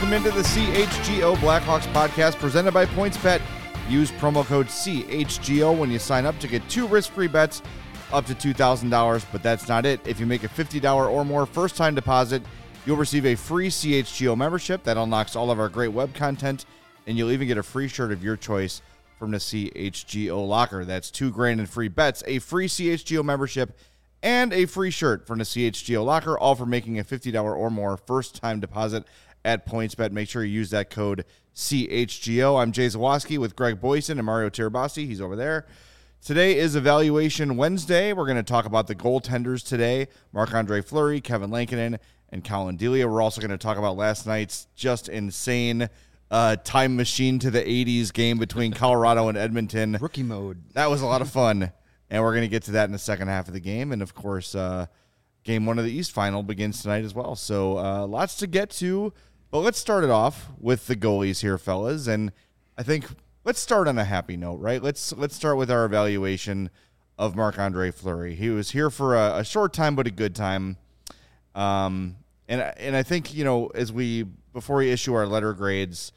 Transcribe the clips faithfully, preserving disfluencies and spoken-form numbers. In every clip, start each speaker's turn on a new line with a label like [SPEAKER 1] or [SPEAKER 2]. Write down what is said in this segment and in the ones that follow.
[SPEAKER 1] Welcome into the C H G O Blackhawks podcast presented by PointsBet. Use promo code C H G O when you sign up to get two risk-free bets up to two thousand dollars, but that's not it. If you make a fifty dollars or more first-time deposit, you'll receive a free C H G O membership that unlocks all of our great web content, and you'll even get a free shirt of your choice from the C H G O locker. That's two grand in free bets, a free C H G O membership, and a free shirt from the C H G O locker, all for making a fifty dollars or more first-time deposit at PointsBet. Make sure you use that code C H G O. I'm Jay Zawoski with Greg Boyson and Mario Tirabassi. He's over there. Today is Evaluation Wednesday. We're going to talk about the goaltenders today, Marc-Andre Fleury, Kevin Lankinen, and Colin Delia. We're also going to talk about last night's just insane uh, time machine to the eighties game between Colorado and Edmonton.
[SPEAKER 2] Rookie mode.
[SPEAKER 1] That was a lot of fun, and we're going to get to that in the second half of the game. And, of course, uh, game one of the East Final begins tonight as well. So uh, lots to get to. But let's start it off with the goalies here, fellas. And I think let's start on a happy note, right? Let's let's start with our evaluation of Marc-Andre Fleury. He was here for a, a short time, but a good time. Um, and and I think, you know, as we before we issue our letter grades,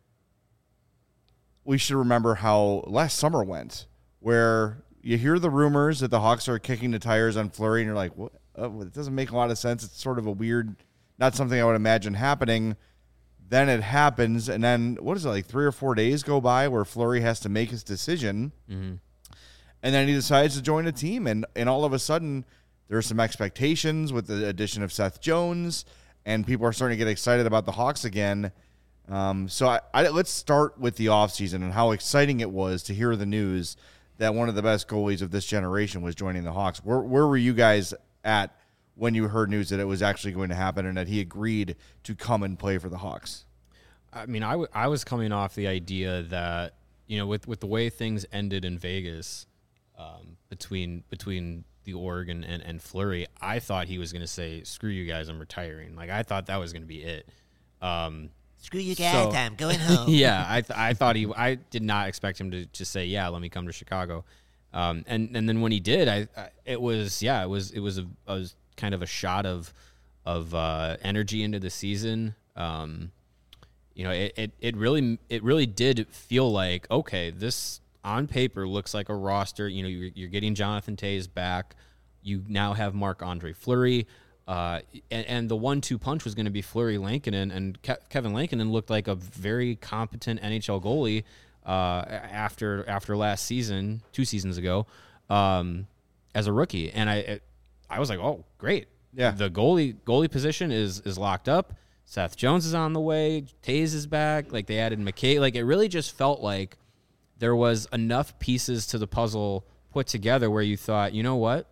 [SPEAKER 1] we should remember how last summer went, where you hear the rumors that the Hawks are kicking the tires on Fleury, and you're like, what? Oh, it doesn't make a lot of sense. It's sort of a weird. Not something I would imagine happening. Then it happens, and then, what is it, like three or four days go by where Fleury has to make his decision, mm-hmm. and then he decides to join a team, and, and all of a sudden, there are some expectations with the addition of Seth Jones, and people are starting to get excited about the Hawks again. Um, so I, I, let's start with the offseason and how exciting it was to hear the news that one of the best goalies of this generation was joining the Hawks. Where, where were you guys at when you heard news that it was actually going to happen and that he agreed to come and play for the Hawks?
[SPEAKER 3] I mean, I, w- I was coming off the idea that, you know, with, with the way things ended in Vegas um, between between the Org and, and, and Fleury, I thought he was going to say, screw you guys, I'm retiring. Like, I thought that was going to be it. Um,
[SPEAKER 4] screw you guys,
[SPEAKER 3] so,
[SPEAKER 4] I'm going home.
[SPEAKER 3] Yeah, I th- I thought he – I did not expect him to just say, yeah, let me come to Chicago. Um, and, and then when he did, I, I it was – yeah, it was it was a, a – kind of a shot of of uh, energy into the season. Um, you know, it, it it really it really did feel like, okay, this on paper looks like a roster. You know, you're, you're getting Jonathan Toews back. You now have Marc-Andre Fleury, uh, and, and the one-two punch was going to be Fleury Lankinen, and Ke- Kevin Lankinen looked like a very competent N H L goalie uh, after after last season, two seasons ago, um, as a rookie, and I. It, I was like, oh, great.
[SPEAKER 1] Yeah.
[SPEAKER 3] The goalie goalie position is is locked up. Seth Jones is on the way. Toews is back. Like, they added McKay. Like, it really just felt like there was enough pieces to the puzzle put together where you thought, you know what?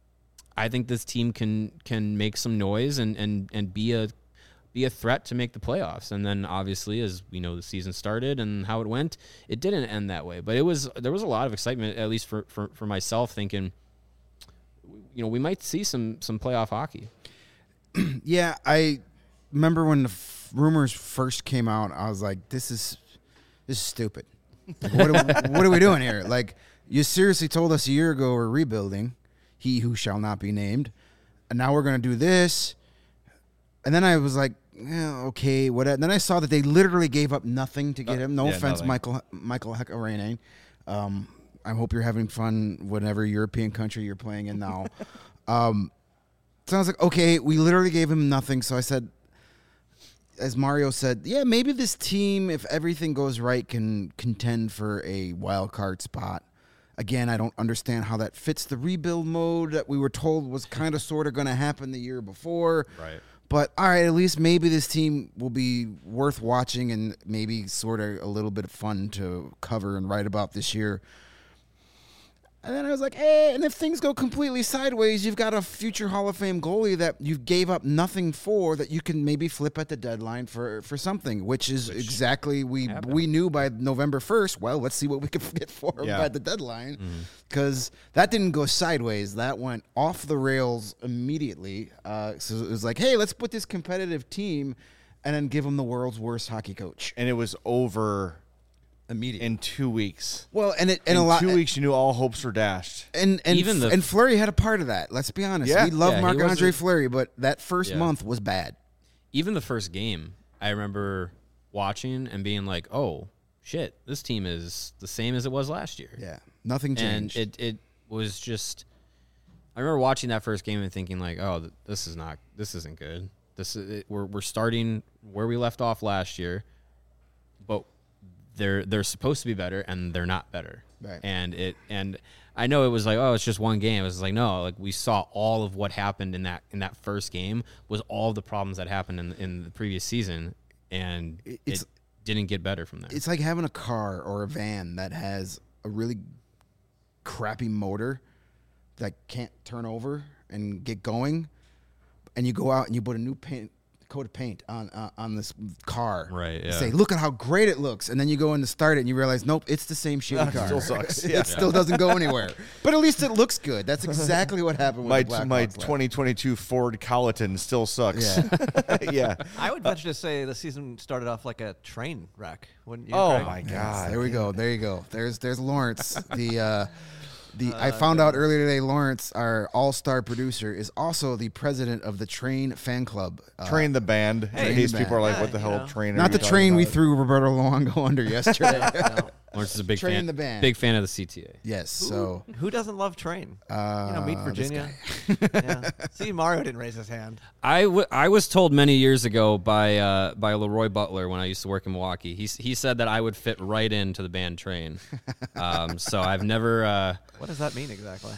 [SPEAKER 3] I think this team can can make some noise and, and, and be a be a threat to make the playoffs. And then obviously, as we know, the season started and how it went, it didn't end that way. But it was there was a lot of excitement, at least for for, for myself, thinking, you know, we might see some some playoff hockey.
[SPEAKER 2] Yeah, I remember when the f- rumors first came out, I was like, this is this is stupid. Like, what, are, what are we doing here? Like, you seriously told us a year ago we're rebuilding, he who shall not be named, and now we're going to do this. And then I was like, yeah, okay, what? Then I saw that they literally gave up nothing to get him. No
[SPEAKER 1] yeah,
[SPEAKER 2] offense,
[SPEAKER 1] nothing.
[SPEAKER 2] Michael Michael Heckarainen. Um I hope you're having fun whatever European country you're playing in now. um, so I was like, okay, we literally gave him nothing. So I said, as Mario said, yeah, maybe this team, if everything goes right, can contend for a wild card spot. Again, I don't understand how that fits the rebuild mode that we were told was kind of sort of going to happen the year before.
[SPEAKER 3] Right.
[SPEAKER 2] But, all right, at least maybe this team will be worth watching and maybe sort of a little bit of fun to cover and write about this year. And then I was like, hey, and if things go completely sideways, you've got a future Hall of Fame goalie that you gave up nothing for that you can maybe flip at the deadline for, for something, which is which exactly we happened. We knew by November first. Well, let's see what we can get for him yeah. by the deadline, because mm-hmm. that didn't go sideways. That went off the rails immediately. Uh, so it was like, hey, let's put this competitive team and then give them the world's worst hockey coach.
[SPEAKER 1] And it was over
[SPEAKER 2] immediately
[SPEAKER 1] in two weeks.
[SPEAKER 2] Well, and it and
[SPEAKER 1] in
[SPEAKER 2] a lot
[SPEAKER 1] two weeks, you knew all hopes were dashed.
[SPEAKER 2] And and
[SPEAKER 3] Even the,
[SPEAKER 2] and Fleury had a part of that. Let's be honest.
[SPEAKER 1] Yeah.
[SPEAKER 2] We love
[SPEAKER 3] yeah,
[SPEAKER 2] Marc-Andre
[SPEAKER 3] a,
[SPEAKER 2] Fleury, but that first
[SPEAKER 3] yeah.
[SPEAKER 2] month was bad.
[SPEAKER 3] Even the first game, I remember watching and being like, "Oh shit, this team is the same as it was last year."
[SPEAKER 2] Yeah, nothing changed.
[SPEAKER 3] And it it was just. I remember watching that first game and thinking like, "Oh, th- this is not. This isn't good. This is it, we're we're starting where we left off last year, but they're they're supposed to be better and they're not better."
[SPEAKER 2] Right.
[SPEAKER 3] And it and I know it was like, oh, it's just one game. It was like, no, like we saw all of what happened in that in that first game was all of the problems that happened in in the previous season, and
[SPEAKER 2] It's-
[SPEAKER 3] it didn't get better from there.
[SPEAKER 2] It's like having a car or a van that has a really crappy motor that can't turn over and get going, and you go out and you put a new paint coat of paint on uh, on this car.
[SPEAKER 3] Right,
[SPEAKER 2] You
[SPEAKER 3] yeah.
[SPEAKER 2] say, look at how great it looks, and then you go in to start it and you realize, nope, it's the same shitty
[SPEAKER 1] It
[SPEAKER 2] car.
[SPEAKER 1] still sucks.
[SPEAKER 2] it
[SPEAKER 1] Yeah.
[SPEAKER 2] still doesn't go anywhere. But at least it looks good. That's exactly what happened with
[SPEAKER 1] My
[SPEAKER 2] the Blackhawks
[SPEAKER 1] my
[SPEAKER 2] last-
[SPEAKER 1] twenty twenty-two Ford Colleton still sucks.
[SPEAKER 2] Yeah.
[SPEAKER 1] yeah.
[SPEAKER 4] I would venture to say the season started off like a train wreck. Wouldn't you?
[SPEAKER 1] Oh
[SPEAKER 4] Craig?
[SPEAKER 1] my
[SPEAKER 2] Yes,
[SPEAKER 1] God.
[SPEAKER 2] there we go. There you go. There's there's Lawrence. The uh, the I found out earlier today. Lawrence, our all-star producer, is also the president of the Train fan club. Uh,
[SPEAKER 1] Train the band.
[SPEAKER 2] Train
[SPEAKER 1] in case
[SPEAKER 2] the
[SPEAKER 1] people are
[SPEAKER 2] band.
[SPEAKER 1] like, what the
[SPEAKER 4] Yeah,
[SPEAKER 1] hell
[SPEAKER 4] you know.
[SPEAKER 1] train are
[SPEAKER 2] not
[SPEAKER 1] you
[SPEAKER 2] the
[SPEAKER 1] talking
[SPEAKER 2] train we
[SPEAKER 1] about?
[SPEAKER 2] threw Roberto Luongo under yesterday.
[SPEAKER 4] No.
[SPEAKER 3] Lawrence is a big
[SPEAKER 2] Train
[SPEAKER 3] fan.
[SPEAKER 2] the band.
[SPEAKER 3] Big fan of the C T A.
[SPEAKER 2] Yes. So
[SPEAKER 4] Who doesn't love Train?
[SPEAKER 2] uh,
[SPEAKER 4] You know, meet
[SPEAKER 2] this
[SPEAKER 4] Virginia.
[SPEAKER 2] guy.
[SPEAKER 4] yeah. See, Mario didn't raise his hand.
[SPEAKER 3] I, w- I was told many years ago by uh, by Leroy Butler when I used to work in Milwaukee. He s- he said that I would fit right into the band Train. Um, so I've never. Uh,
[SPEAKER 4] What does that mean exactly?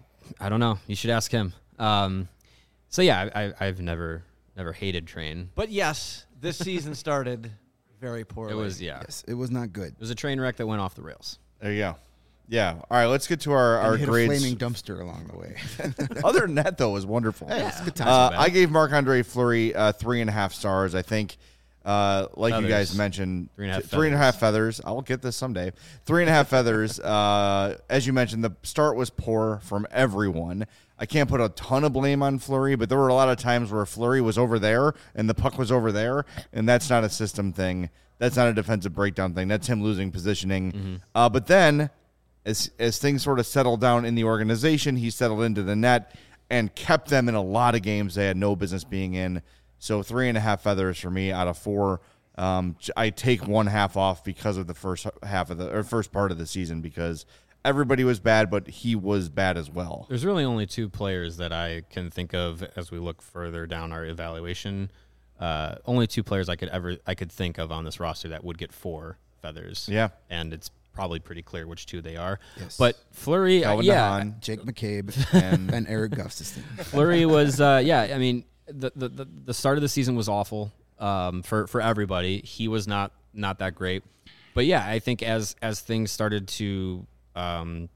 [SPEAKER 3] I don't know. You should ask him. Um, so yeah, I, I, I've never never hated Train.
[SPEAKER 4] But yes, this season started very
[SPEAKER 3] It
[SPEAKER 4] poorly.
[SPEAKER 3] was yeah.
[SPEAKER 2] Yes, it was not good.
[SPEAKER 3] It was a train wreck that went off the rails.
[SPEAKER 1] There you go. Yeah. All right. Let's get to our, our
[SPEAKER 2] And hit
[SPEAKER 1] grades.
[SPEAKER 2] a flaming dumpster along the way.
[SPEAKER 1] Other than that, though, it was wonderful.
[SPEAKER 2] Hey, it's a good time.
[SPEAKER 1] Uh,
[SPEAKER 3] bad.
[SPEAKER 1] I gave Marc-Andre Fleury uh, three and a half stars. I think, uh, like you guys
[SPEAKER 3] Feathers.
[SPEAKER 1] mentioned,
[SPEAKER 3] Three and a half
[SPEAKER 1] t- three and a half feathers. I'll get this someday. Three and a half feathers. Uh, as you mentioned, the start was poor from everyone. I can't put a ton of blame on Fleury, but there were a lot of times where Fleury was over there and the puck was over there, and that's not a system thing. That's not a defensive breakdown thing. That's him losing positioning.
[SPEAKER 3] Mm-hmm.
[SPEAKER 1] Uh, but then, as as things sort of settled down in the organization, he settled into the net and kept them in a lot of games they had no business being in. So three and a half feathers for me out of four. Um, j- I take one half off because of the first half of the or first part of the season because everybody was bad, but he was bad as well.
[SPEAKER 3] There's really only two players that I can think of as we look further down our evaluation. Uh, only two players I could ever I could think of on this roster that would get four feathers.
[SPEAKER 1] Yeah.
[SPEAKER 3] and it's probably pretty clear which two they are.
[SPEAKER 2] Yes.
[SPEAKER 3] But Fleury, uh,
[SPEAKER 1] Calvin
[SPEAKER 3] yeah,
[SPEAKER 1] DeHaan.
[SPEAKER 2] Jake McCabe and, and Eric Gustafson.
[SPEAKER 3] Fleury was, uh, yeah. I mean, the, the the the start of the season was awful um, for for everybody. He was not not that great, but yeah, I think as as things started to, um,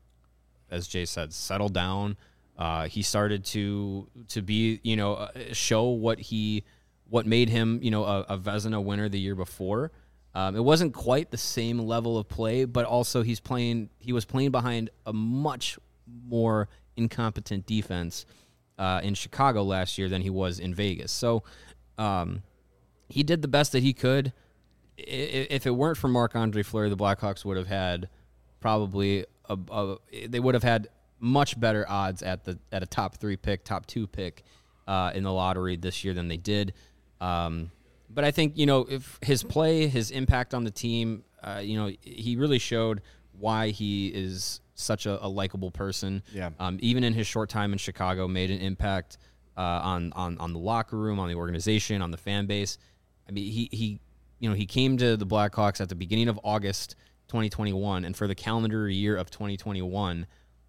[SPEAKER 3] as Jay said, settle down, uh, he started to to be you know uh, show what he what made him you know a, a Vezina winner the year before. Um, it wasn't quite the same level of play, but also he's playing. He was playing behind a much more incompetent defense uh, in Chicago last year than he was in Vegas. So um, he did the best that he could. I- I- If it weren't for Marc-Andre Fleury, the Blackhawks would have had probably a, a they would have had much better odds at the at a top three pick, top two pick uh, in the lottery this year than they did. Um, But I think, you know, if his play, his impact on the team, uh, you know, he really showed why he is such a, a likable person.
[SPEAKER 1] Yeah.
[SPEAKER 3] Um, even in his short time in Chicago, made an impact uh, on, on on the locker room, on the organization, on the fan base. I mean, he, he you know, he came to the Blackhawks at the beginning of August twenty twenty-one, and for the calendar year of twenty twenty-one,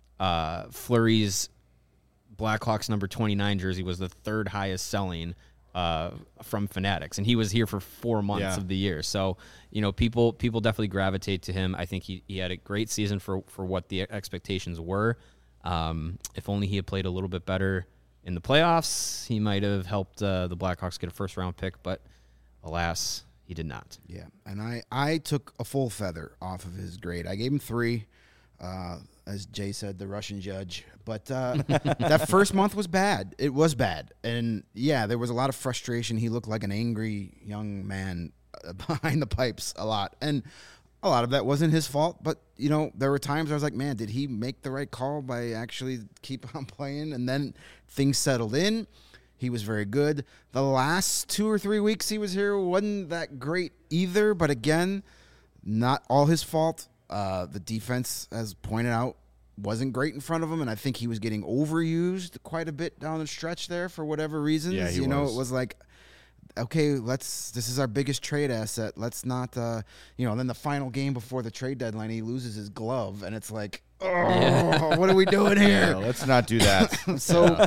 [SPEAKER 3] uh, Fleury's Blackhawks number twenty-nine jersey was the third highest selling uh, from Fanatics, and he was here for four months
[SPEAKER 1] Yeah.
[SPEAKER 3] of the year. So, you know, people people definitely gravitate to him. I think he, he had a great season for, for what the expectations were. Um, if only he had played a little bit better in the playoffs, he might have helped uh, the Blackhawks get a first round pick, but alas, he did not.
[SPEAKER 2] Yeah, and I, I took a full feather off of his grade. I gave him three, uh, as Jay said, the Russian judge. But uh, that first month was bad. It was bad. And, yeah, there was a lot of frustration. He looked like an angry young man uh, behind the pipes a lot. And a lot of that wasn't his fault. But, you know, there were times I was like, man, did he make the right call by actually keep on playing? And then things settled in. he was very good. The last two or three weeks he was here wasn't that great either, but again, not all his fault. Uh, the defense, as pointed out, wasn't great in front of him, and I think he was getting overused quite a bit down the stretch there for whatever reasons.
[SPEAKER 1] Yeah, he
[SPEAKER 2] you know,
[SPEAKER 1] was.
[SPEAKER 2] it was like, okay, let's. This is our biggest trade asset. Let's not, uh, you know. And then the final game before the trade deadline, he loses his glove, and it's like, oh, what are we doing here?
[SPEAKER 1] Yeah, let's not do that.
[SPEAKER 2] So,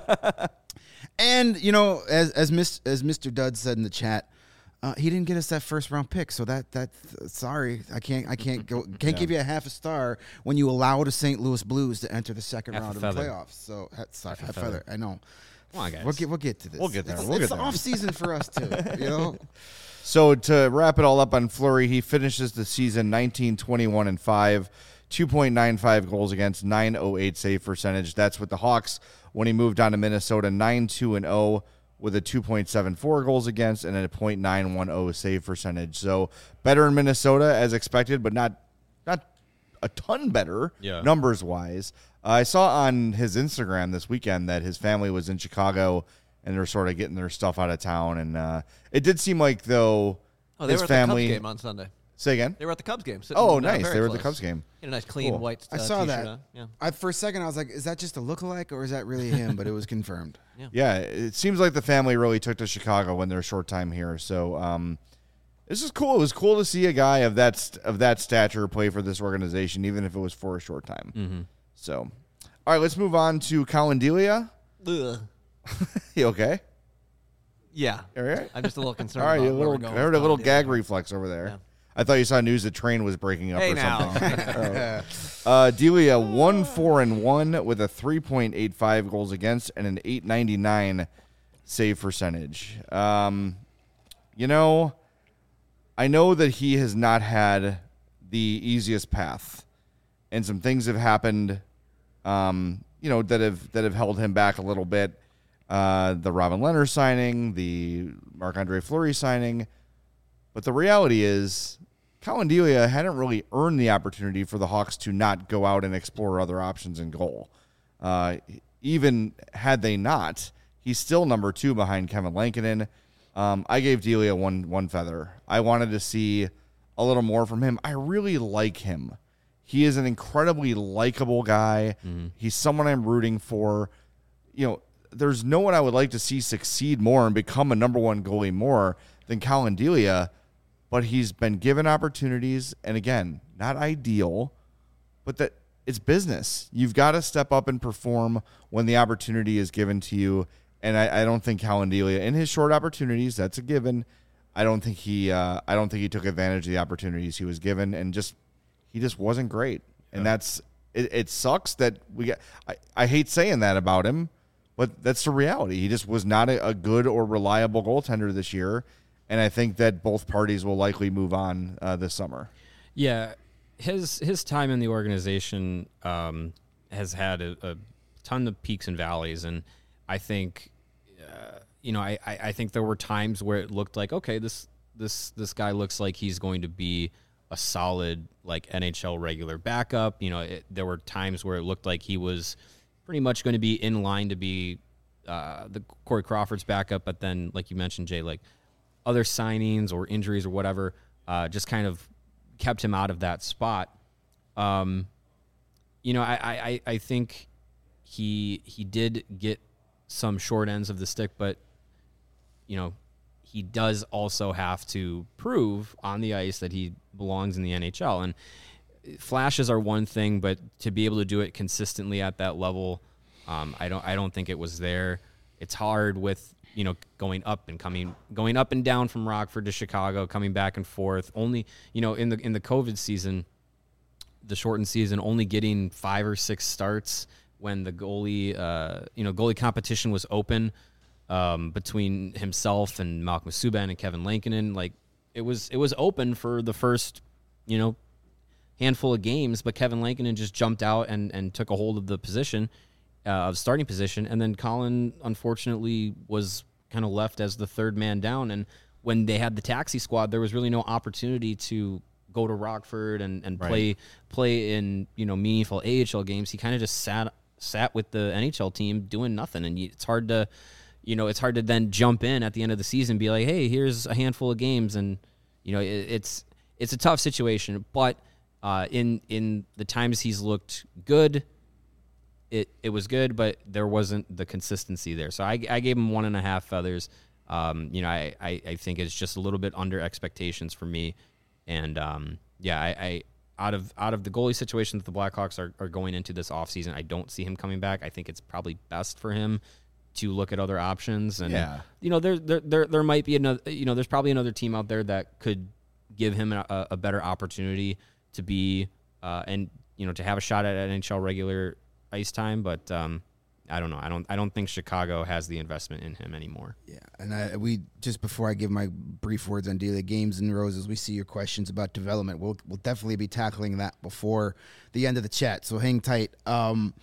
[SPEAKER 2] and you know, as as Miss, as Mister Dud said in the chat, uh, he didn't get us that first round pick. So that that sorry, I can't I can't go can't
[SPEAKER 1] Yeah.
[SPEAKER 2] give you a half a star when you allow the Saint Louis Blues to enter the second
[SPEAKER 3] Half a
[SPEAKER 2] round of the
[SPEAKER 3] feather.
[SPEAKER 2] playoffs. So ha- sorry,
[SPEAKER 3] Half a
[SPEAKER 2] half
[SPEAKER 3] feather.
[SPEAKER 2] feather. I know.
[SPEAKER 3] Come on, guys.
[SPEAKER 2] We'll get we'll get to this.
[SPEAKER 1] We'll get there.
[SPEAKER 2] It's,
[SPEAKER 1] We'll
[SPEAKER 2] it's
[SPEAKER 1] get there.
[SPEAKER 2] off season for us too. You know.
[SPEAKER 1] So to wrap it all up on Fleury, he finishes the season nineteen, twenty-one, and five, two point nine five goals against, nine oh eight save percentage. That's with the Hawks when he moved on to Minnesota, nine two and oh with a two point seven four goals against and a point nine one oh save percentage. So better in Minnesota as expected, but not not a ton better
[SPEAKER 3] Yeah.
[SPEAKER 1] numbers wise. Uh, I saw on his Instagram this weekend that his family was in Chicago and they're sort of getting their stuff out of town. And uh, it did seem like, though,
[SPEAKER 4] Oh, they
[SPEAKER 1] his
[SPEAKER 4] were at
[SPEAKER 1] family.
[SPEAKER 4] the Cubs game on Sunday.
[SPEAKER 1] Say again?
[SPEAKER 4] They were at the Cubs game. sitting,
[SPEAKER 1] Oh,
[SPEAKER 4] uh,
[SPEAKER 1] nice.
[SPEAKER 4] very
[SPEAKER 1] They were at the
[SPEAKER 4] close.
[SPEAKER 1] Cubs game.
[SPEAKER 4] In a nice, clean
[SPEAKER 1] Cool.
[SPEAKER 4] white. Uh,
[SPEAKER 2] I saw
[SPEAKER 4] t-shirt
[SPEAKER 2] that.
[SPEAKER 4] on. Yeah.
[SPEAKER 2] I, for a second, I was like, "Is that just a lookalike, or is that really him?" But it was confirmed.
[SPEAKER 1] Yeah, it seems like the family really took to Chicago when they're short time here. So um, this is cool. It was cool to see a guy of that st- of that stature play for this organization, even if it was for a short time.
[SPEAKER 3] Mm-hmm.
[SPEAKER 1] So, all right, let's move on to Colin Delia.
[SPEAKER 4] Ugh.
[SPEAKER 1] You okay?
[SPEAKER 4] Yeah.
[SPEAKER 1] All right.
[SPEAKER 4] I'm just a little concerned.
[SPEAKER 1] All right,
[SPEAKER 4] about
[SPEAKER 1] a
[SPEAKER 4] where we're
[SPEAKER 1] little.
[SPEAKER 4] going
[SPEAKER 1] I heard
[SPEAKER 4] with
[SPEAKER 1] a little
[SPEAKER 4] Tom
[SPEAKER 1] gag
[SPEAKER 4] Daly.
[SPEAKER 1] reflex over there.
[SPEAKER 4] Yeah.
[SPEAKER 1] I thought you saw news the train was breaking up
[SPEAKER 4] Hey
[SPEAKER 1] or
[SPEAKER 4] now.
[SPEAKER 1] something. uh, Delia one four and one with a three point eight five goals against and an eight ninety nine save percentage. Um, you know, I know that he has not had the easiest path, and some things have happened. Um, you know that have that have held him back a little bit. Uh, the Robin Leonard signing, the Marc-Andre Fleury signing. But the reality is, Colin Delia hadn't really earned the opportunity for the Hawks to not go out and explore other options in goal. Uh, even had they not, he's still number two behind Kevin Lankinen. Um, I gave Delia one one feather. I wanted to see a little more from him. I really like him. He is an incredibly likable guy.
[SPEAKER 3] Mm-hmm.
[SPEAKER 1] He's someone I'm rooting for. You know, there's no one I would like to see succeed more and become a number one goalie more than Colin Delia. But he's been given opportunities, and again, not ideal, but that it's business. You've got to step up and perform when the opportunity is given to you. And I, I don't think Colin Delia, in his short opportunities, that's a given. I don't think he, uh, I don't think he took advantage of the opportunities he was given, and just he just wasn't great. And that's it. It sucks that we get. I, I hate saying that about him, but that's the reality. He just was not a, a good or reliable goaltender this year. And I think that both parties will likely move on uh, this summer.
[SPEAKER 3] Yeah, his his time in the organization um, has had a, a ton of peaks and valleys, and I think, uh, you know, I, I I think there were times where it looked like, okay, this this this guy looks like he's going to be a solid like N H L regular backup. You know, it, there were times where it looked like he was pretty much going to be in line to be uh, the Corey Crawford's backup, but then, like you mentioned, Jay, like other signings or injuries or whatever, uh, just kind of kept him out of that spot. Um, you know, I, I, I think he he did get some short ends of the stick, but you know, he does also have to prove on the ice that he belongs in the N H L. And flashes are one thing, but to be able to do it consistently at that level, um, I don't I don't think it was there. It's hard with, you know, going up and coming, going up and down from Rockford to Chicago, coming back and forth. Only, you know, in the in the COVID season, the shortened season, only getting five or six starts when the goalie, uh, you know, goalie competition was open um, between himself and Malcolm Subban and Kevin Lankinen. Like it was, it was open for the first, you know, handful of games, but Kevin Lankinen just jumped out and and took a hold of the position. Uh, of starting position, and then Colin unfortunately was kind of left as the third man down. And when they had the taxi squad, there was really no opportunity to go to Rockford and, and
[SPEAKER 1] Right.
[SPEAKER 3] play play in, you know, meaningful A H L games. He kind of just sat sat with the N H L team doing nothing, and you, it's hard to you know, it's hard to then jump in at the end of the season and be like, hey, here's a handful of games. And, you know, it, it's it's a tough situation. But uh, in in the times he's looked good, it, it was good, but there wasn't the consistency there. So I, I gave him one and a half feathers. Um, you know, I, I, I think it's just a little bit under expectations for me. And, um, yeah, I, I out of out of the goalie situation that the Blackhawks are, are going into this offseason, I don't see him coming back. I think it's probably best for him to look at other options. And,
[SPEAKER 1] Yeah.
[SPEAKER 3] you know, there, there, there, there might be another, you know, there's probably another team out there that could give him a, a better opportunity to be, uh, and, you know, to have a shot at N H L regular ice time. But, um, I don't know. I don't. I don't think Chicago has the investment in him anymore.
[SPEAKER 2] Yeah, and I, we just before I give my brief words on Delia, Games and Roses, we see your questions about development. We'll we'll definitely be tackling that before the end of the chat. So hang tight. Um,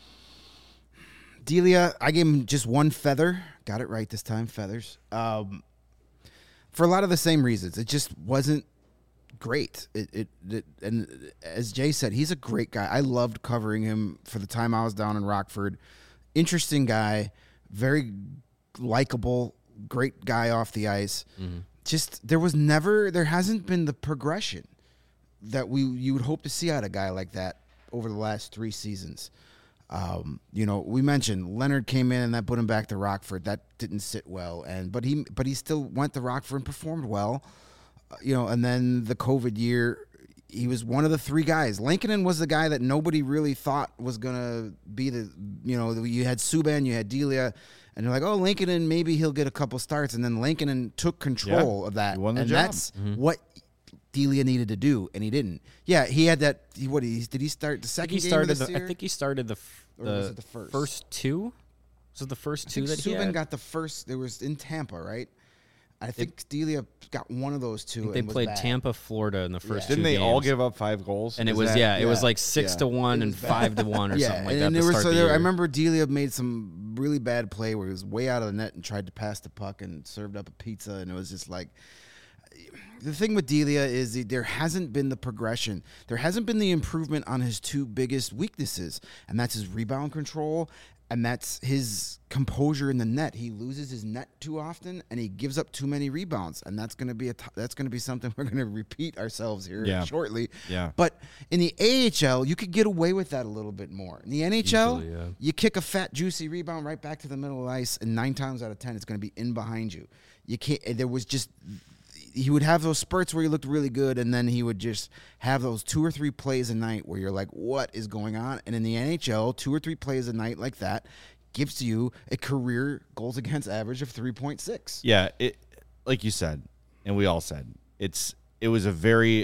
[SPEAKER 2] Delia, I gave him just one feather. Got it right this time. Feathers. Um, for a lot of the same reasons. It just wasn't great. It, it it and as Jay said, he's a great guy. I loved covering him for the time I was down in Rockford. Interesting guy, very likable, great guy off the ice. Mm-hmm. Just there was never, there hasn't been the progression that we you would hope to see out of a guy like that over the last three seasons. Um, you know, we mentioned Leonard came in and that put him back to Rockford. That didn't sit well, and but he but he still went to Rockford and performed well. Uh, you know, and then the COVID year. He was one of the three guys. Lankinen was the guy that nobody really thought was going to be the, you know, you had Subban, you had Delia, and they're like, oh, Lankinen, maybe he'll get a couple starts. And then Lankinen took control
[SPEAKER 1] yeah,
[SPEAKER 2] of that.
[SPEAKER 1] He won the
[SPEAKER 2] and
[SPEAKER 1] job.
[SPEAKER 2] that's mm-hmm. what Delia needed to do, and he didn't. Yeah, he had that, he, what, he, did he start the second
[SPEAKER 3] he
[SPEAKER 2] game
[SPEAKER 3] started
[SPEAKER 2] of this
[SPEAKER 3] the,
[SPEAKER 2] year?
[SPEAKER 3] I think he started the, f- the,
[SPEAKER 2] the first?
[SPEAKER 3] first two. Was it the first
[SPEAKER 2] I
[SPEAKER 3] two
[SPEAKER 2] think
[SPEAKER 3] that he
[SPEAKER 2] Subban
[SPEAKER 3] had?
[SPEAKER 2] got the first, there was in Tampa, right? I think it, Delia got one of those two.
[SPEAKER 3] I think they
[SPEAKER 2] and
[SPEAKER 3] played
[SPEAKER 2] was bad.
[SPEAKER 3] Tampa, Florida in the first
[SPEAKER 2] Yeah.
[SPEAKER 3] two
[SPEAKER 1] Didn't they
[SPEAKER 3] games.
[SPEAKER 1] all give up five goals?
[SPEAKER 3] And it
[SPEAKER 1] Is
[SPEAKER 3] was,
[SPEAKER 1] that-
[SPEAKER 3] yeah, it was
[SPEAKER 2] yeah,
[SPEAKER 3] like six
[SPEAKER 1] yeah.
[SPEAKER 3] to one
[SPEAKER 2] It
[SPEAKER 3] and
[SPEAKER 2] was bad.
[SPEAKER 3] five to one or
[SPEAKER 2] yeah,
[SPEAKER 3] something like
[SPEAKER 2] and
[SPEAKER 3] that.
[SPEAKER 2] then
[SPEAKER 3] to
[SPEAKER 2] there was
[SPEAKER 3] start
[SPEAKER 2] so
[SPEAKER 3] the
[SPEAKER 2] there,
[SPEAKER 3] year.
[SPEAKER 2] I remember Delia made some really bad play where he was way out of the net and tried to pass the puck and served up a pizza, and it was just like. The thing with Delia is that there hasn't been the progression. There hasn't been the improvement on his two biggest weaknesses, and that's his rebound control, and that's his composure in the net. He loses his net too often, and he gives up too many rebounds, and that's going to be a t- that's going to be something we're going to repeat ourselves here
[SPEAKER 1] Yeah.
[SPEAKER 2] shortly.
[SPEAKER 1] Yeah.
[SPEAKER 2] But in the A H L, you could get away with that a little bit more. In the N H L,
[SPEAKER 3] Easily, yeah.
[SPEAKER 2] you kick a fat, juicy rebound right back to the middle of the ice, and nine times out of ten, it's going to be in behind you. You can't. There was just. He would have those spurts where he looked really good, and then he would just have those two or three plays a night where you're like, what is going on? And in the N H L, two or three plays a night like that gives you a career goals against average of three point six.
[SPEAKER 1] Yeah, it like you said, and we all said, it's it was a very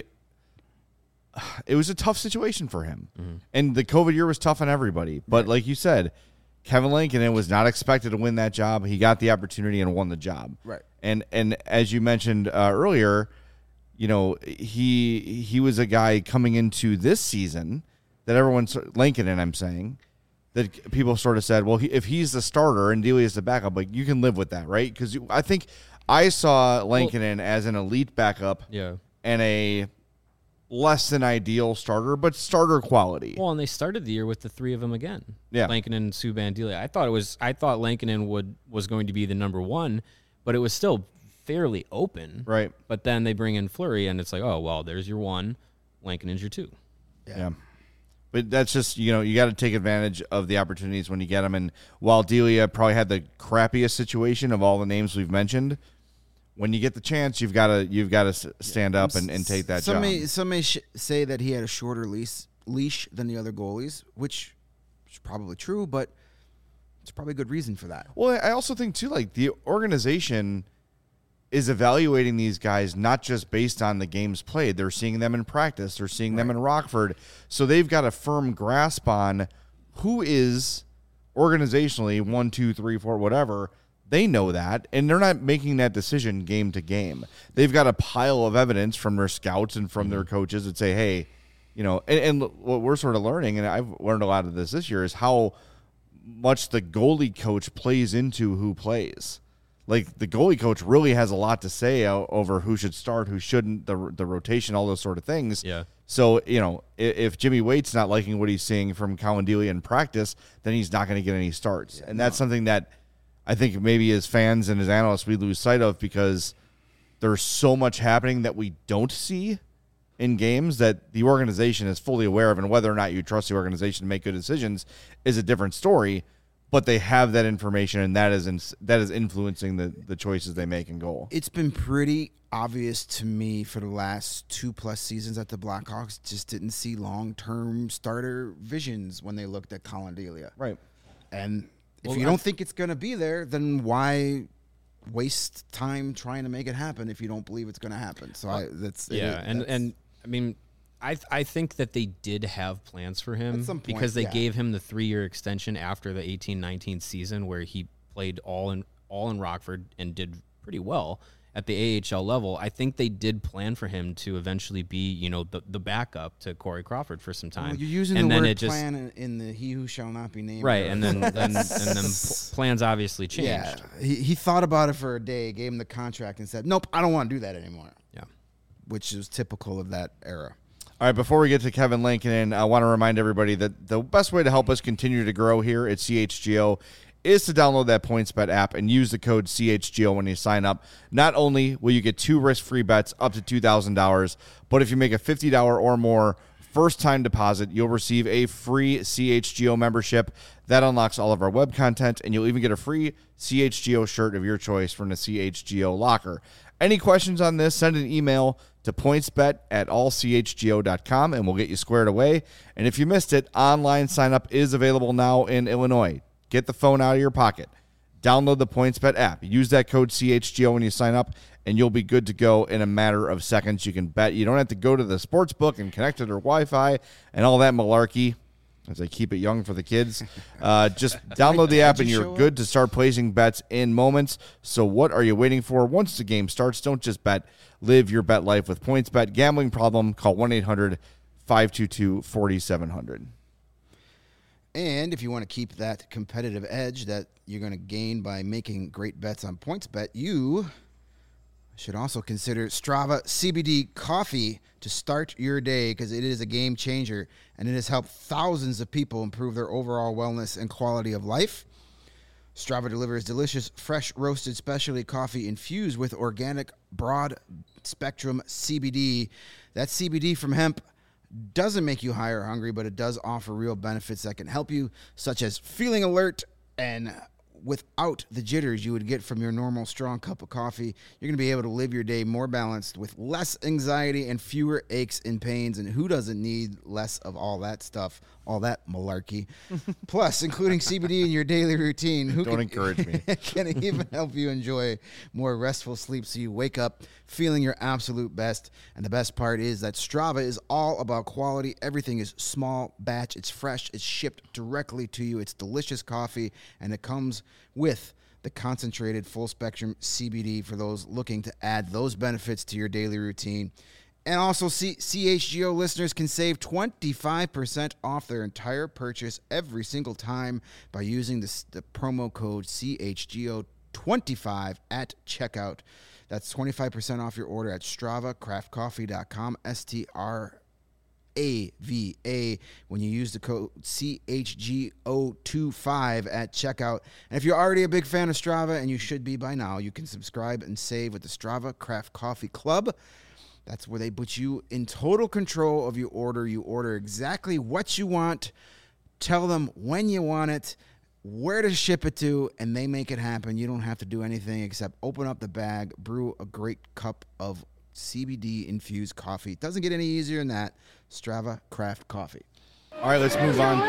[SPEAKER 1] it was a tough situation for him. Mm-hmm. And the COVID year was tough on everybody. But right. like you said, Kevin Lankinen was not expected to win that job. He got the opportunity and won the job.
[SPEAKER 2] Right.
[SPEAKER 1] And and as you mentioned uh, earlier, you know, he he was a guy coming into this season that everyone's Lankinen, I'm saying, that people sort of said, well, he, if he's the starter and Delia is the backup, like you can live with that, right? Because I think I saw Lankinen well, as an elite backup,
[SPEAKER 3] yeah,
[SPEAKER 1] and a less than ideal starter, but starter quality.
[SPEAKER 3] Well, and they started the year with the three of them again.
[SPEAKER 1] Yeah,
[SPEAKER 3] Lankinen, Subban, Delia. I thought it was. I thought Lankinen would was going to be the number one, but it was still fairly open.
[SPEAKER 1] Right.
[SPEAKER 3] But then they bring in Fleury, and it's like, oh well, there's your one. Lankinen's your two.
[SPEAKER 1] Yeah. yeah. But that's just, you know, you got to take advantage of the opportunities when you get them. And while Delia probably had the crappiest situation of all the names we've mentioned, when you get the chance, you've got to you've got to stand up and, and take that
[SPEAKER 2] some
[SPEAKER 1] job.
[SPEAKER 2] May, some may sh- say that he had a shorter leash, leash than the other goalies, which is probably true, but it's probably a good reason for that.
[SPEAKER 1] Well, I also think, too, like the organization is evaluating these guys not just based on the games played. They're seeing them in practice. They're seeing right. them in Rockford. So they've got a firm grasp on who is organizationally one, two, three, four, whatever. They know that, and they're not making that decision game to game. They've got a pile of evidence from their scouts and from mm-hmm. their coaches that say, hey, you know, and, and what we're sort of learning, and I've learned a lot of this this year, is how much the goalie coach plays into who plays. Like, the goalie coach really has a lot to say over who should start, who shouldn't, the the rotation, all those sort of things.
[SPEAKER 3] Yeah.
[SPEAKER 1] So, you know, if, if Jimmy Waite's not liking what he's seeing from Colin Delia in practice, then he's not going to get any starts. Yeah, and that's no. something that I think maybe as fans and as analysts we lose sight of because there's so much happening that we don't see in games that the organization is fully aware of, and whether or not you trust the organization to make good decisions is a different story. But they have that information, and that is in, that is influencing the, the choices they make in goal.
[SPEAKER 2] It's been pretty obvious to me for the last two-plus seasons that the Blackhawks just didn't see long-term starter visions when they looked at Colin Delia.
[SPEAKER 1] Right.
[SPEAKER 2] And if
[SPEAKER 3] Well,
[SPEAKER 2] you
[SPEAKER 3] I-
[SPEAKER 2] don't think it's going to be there, then why waste time trying to make it happen if you don't believe it's going to happen? So I, that's
[SPEAKER 3] Yeah,
[SPEAKER 2] it,
[SPEAKER 3] and
[SPEAKER 2] that's-
[SPEAKER 3] and I mean, I th- I think that they did have plans for him
[SPEAKER 2] At some point,
[SPEAKER 3] because they
[SPEAKER 2] yeah.
[SPEAKER 3] gave him the three year extension after the eighteen nineteen season where he played all in all in Rockford and did pretty well at the A H L level. I think they did plan for him to eventually be, you know, the, the backup to Corey Crawford for some time.
[SPEAKER 2] Well, you're using
[SPEAKER 3] and
[SPEAKER 2] the
[SPEAKER 3] then
[SPEAKER 2] word
[SPEAKER 3] it just,
[SPEAKER 2] plan in, in the "He Who Shall Not Be Named."
[SPEAKER 3] right,
[SPEAKER 2] era.
[SPEAKER 3] and then and, and then pl- plans obviously changed.
[SPEAKER 2] Yeah, he, he thought about it for a day, gave him the contract, and said, "Nope, I don't want to do that anymore."
[SPEAKER 3] Yeah.
[SPEAKER 2] Which is typical of that era.
[SPEAKER 1] All right, before we get to Kevin Lankinen, I want to remind everybody that the best way to help us continue to grow here at C H G O is to download that PointsBet app and use the code C H G O when you sign up. Not only will you get two risk-free bets up to two thousand dollars, but if you make a fifty dollars or more first-time deposit, you'll receive a free C H G O membership. That unlocks all of our web content, and you'll even get a free C H G O shirt of your choice from the C H G O locker. Any questions on this, send an email to pointsbet at all c h g o dot com, and we'll get you squared away. And if you missed it, online sign-up is available now in Illinois. Get the phone out of your pocket. Download the PointsBet app. Use that code C H G O when you sign up, and you'll be good to go in a matter of seconds. You can bet. You don't have to go to the sports book and connect to their Wi-Fi and all that malarkey, as I keep it young for the kids. Uh, just download the app, and you're good to start placing bets in moments. So what are you waiting for? Once the game starts, don't just bet. Live your bet life with PointsBet. Gambling problem? Call one eight hundred five two two four seven zero zero.
[SPEAKER 2] And if you want to keep that competitive edge that you're going to gain by making great bets on PointsBet, you should also consider Strava C B D coffee to start your day, because it is a game changer and it has helped thousands of people improve their overall wellness and quality of life. Strava delivers delicious, fresh roasted specialty coffee infused with organic broad spectrum C B D. That C B D from hemp doesn't make you high or hungry, but it does offer real benefits that can help you, such as feeling alert and without the jitters you would get from your normal strong cup of coffee. You're going to be able to live your day more balanced with less anxiety and fewer aches and pains. And who doesn't need less of all that stuff, all that malarkey? Plus, including C B D in your daily routine, who
[SPEAKER 1] Don't
[SPEAKER 2] can,
[SPEAKER 1] encourage me.
[SPEAKER 2] can even help you enjoy more restful sleep so you wake up feeling your absolute best. And the best part is that Strava is all about quality. Everything is small batch. It's fresh. It's shipped directly to you. It's delicious coffee, and it comes with the concentrated full spectrum C B D for those looking to add those benefits to your daily routine. And also, C- CHGO listeners can save twenty-five percent off their entire purchase every single time by using the, the promo code C H G O twenty-five at checkout. That's twenty-five percent off your order at strava craft coffee dot com, S T R A V A, when you use the code C H G O twenty-five at checkout. And if you're already a big fan of Strava, and you should be by now, you can subscribe and save with the Strava Craft Coffee Club. That's where they put you in total control of your order. You order exactly what you want, tell them when you want it, where to ship it to, and they make it happen. You don't have to do anything except open up the bag, brew a great cup of C B D-infused coffee. It doesn't get any easier than that. Strava Craft Coffee.
[SPEAKER 1] All right, let's move on.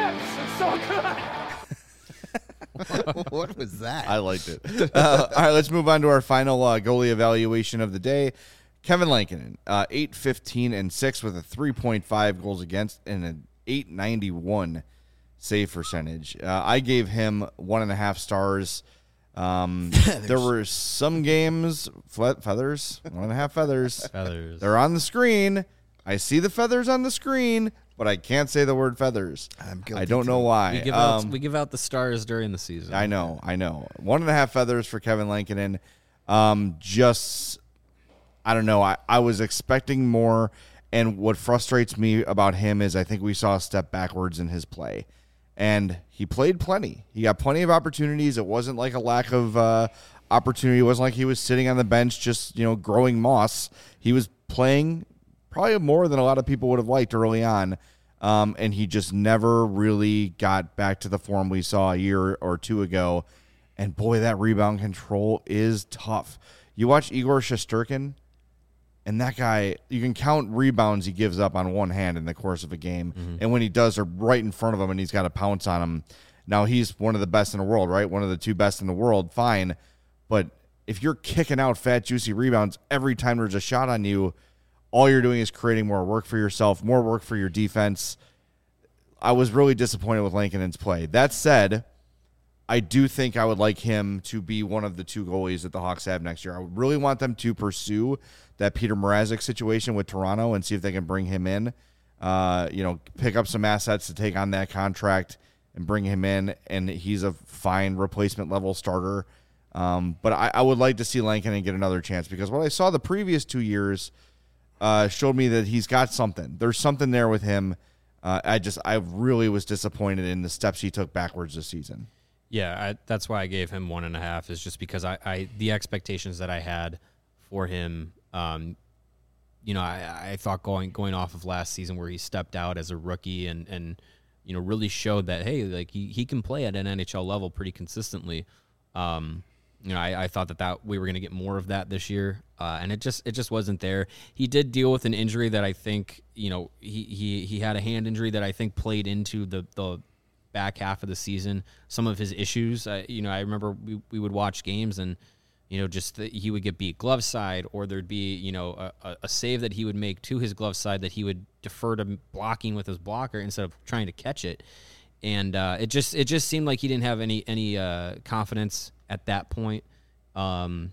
[SPEAKER 2] What was that?
[SPEAKER 1] I liked it. Uh, all right, let's move on to our final uh, goalie evaluation of the day. Kevin Lankinen, uh, eight fifteen and six with a three point five goals against and an eight ninety-one save percentage. Uh, I gave him one and a half stars. Um, there were some games, fe- feathers, one and a half feathers.
[SPEAKER 3] Feathers.
[SPEAKER 1] They're on the screen. I see the feathers on the screen, but I can't say the word feathers.
[SPEAKER 2] I'm guilty
[SPEAKER 1] I don't
[SPEAKER 2] too.
[SPEAKER 1] know why.
[SPEAKER 3] We give out
[SPEAKER 1] Um,
[SPEAKER 3] we give out the stars during the season.
[SPEAKER 1] I know, I know. One and a half feathers for Kevin Lankinen. Um, just, I don't know. I, I was expecting more, and what frustrates me about him is I think we saw a step backwards in his play. And he played plenty. He got plenty of opportunities. It wasn't like a lack of uh, opportunity. It wasn't like he was sitting on the bench just, you know, growing moss. He was playing probably more than a lot of people would have liked early on. Um, and he just never really got back to the form we saw a year or two ago. And boy, that rebound control is tough. You watch Igor Shesterkin, and that guy, you can count rebounds he gives up on one hand in the course of a game. Mm-hmm. And when he does, they're right in front of him, and he's got to pounce on him. Now, he's one of the best in the world, right? One of the two best in the world, fine. But if you're kicking out fat, juicy rebounds every time there's a shot on you, all you're doing is creating more work for yourself, more work for your defense. I was really disappointed with Lankinen's play. That said, I do think I would like him to be one of the two goalies that the Hawks have next year. I would really want them to pursue that Peter Mrazek situation with Toronto and see if they can bring him in. Uh, you know, pick up some assets to take on that contract and bring him in, and he's a fine replacement level starter. Um, but I, I would like to see Lankinen get another chance because what I saw the previous two years uh, showed me that he's got something. There's something there with him. Uh, I just I really was disappointed in the steps he took backwards this season.
[SPEAKER 3] Yeah, I, that's why I gave him one and a half. Is just because I, I the expectations that I had for him. Um, you know, I, I thought going going off of last season where he stepped out as a rookie and, and you know really showed that hey, like he, he can play at an N H L level pretty consistently. Um, you know, I, I thought that, that we were going to get more of that this year, uh, and it just it just wasn't there. He did deal with an injury that I think you know he he he had a hand injury that I think played into the the back half of the season. Some of his issues, uh, you know, I remember we we would watch games and. You know, just that he would get beat glove side, or there'd be, you know, a, a save that he would make to his glove side that he would defer to blocking with his blocker instead of trying to catch it. And uh, it just it just seemed like he didn't have any any uh, confidence at that point um,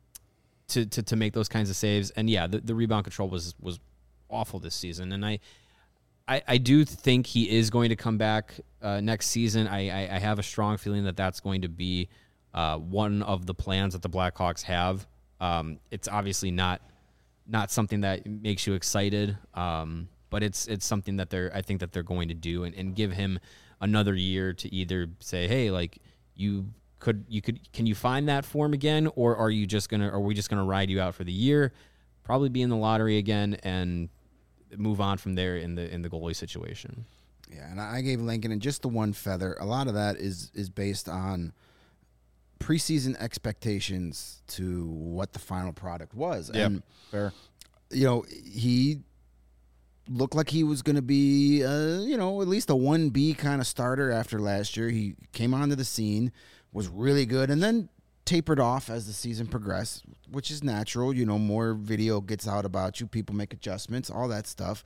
[SPEAKER 3] to, to to make those kinds of saves. And yeah, the, the rebound control was was awful this season. And I I, I do think he is going to come back uh, next season. I, I I have a strong feeling that that's going to be. Uh, one of the plans that the Blackhawks have. Um, it's obviously not not something that makes you excited, um, but it's it's something that they're I think that they're going to do and, and give him another year to either say, hey, like you could you could can you find that form again, or are you just gonna are we just gonna ride you out for the year, probably be in the lottery again and move on from there in the in the goalie situation.
[SPEAKER 2] Yeah, and I gave Lankinen just the one feather. A lot of that is is based on preseason expectations to what the final product was.
[SPEAKER 1] Yep,
[SPEAKER 2] and
[SPEAKER 1] fair.
[SPEAKER 2] You know, he looked like he was going to be, uh, you know, at least a one B kind of starter after last year. He came onto the scene, was really good, and then tapered off as the season progressed, which is natural. You know, more video gets out about you, people make adjustments, all that stuff.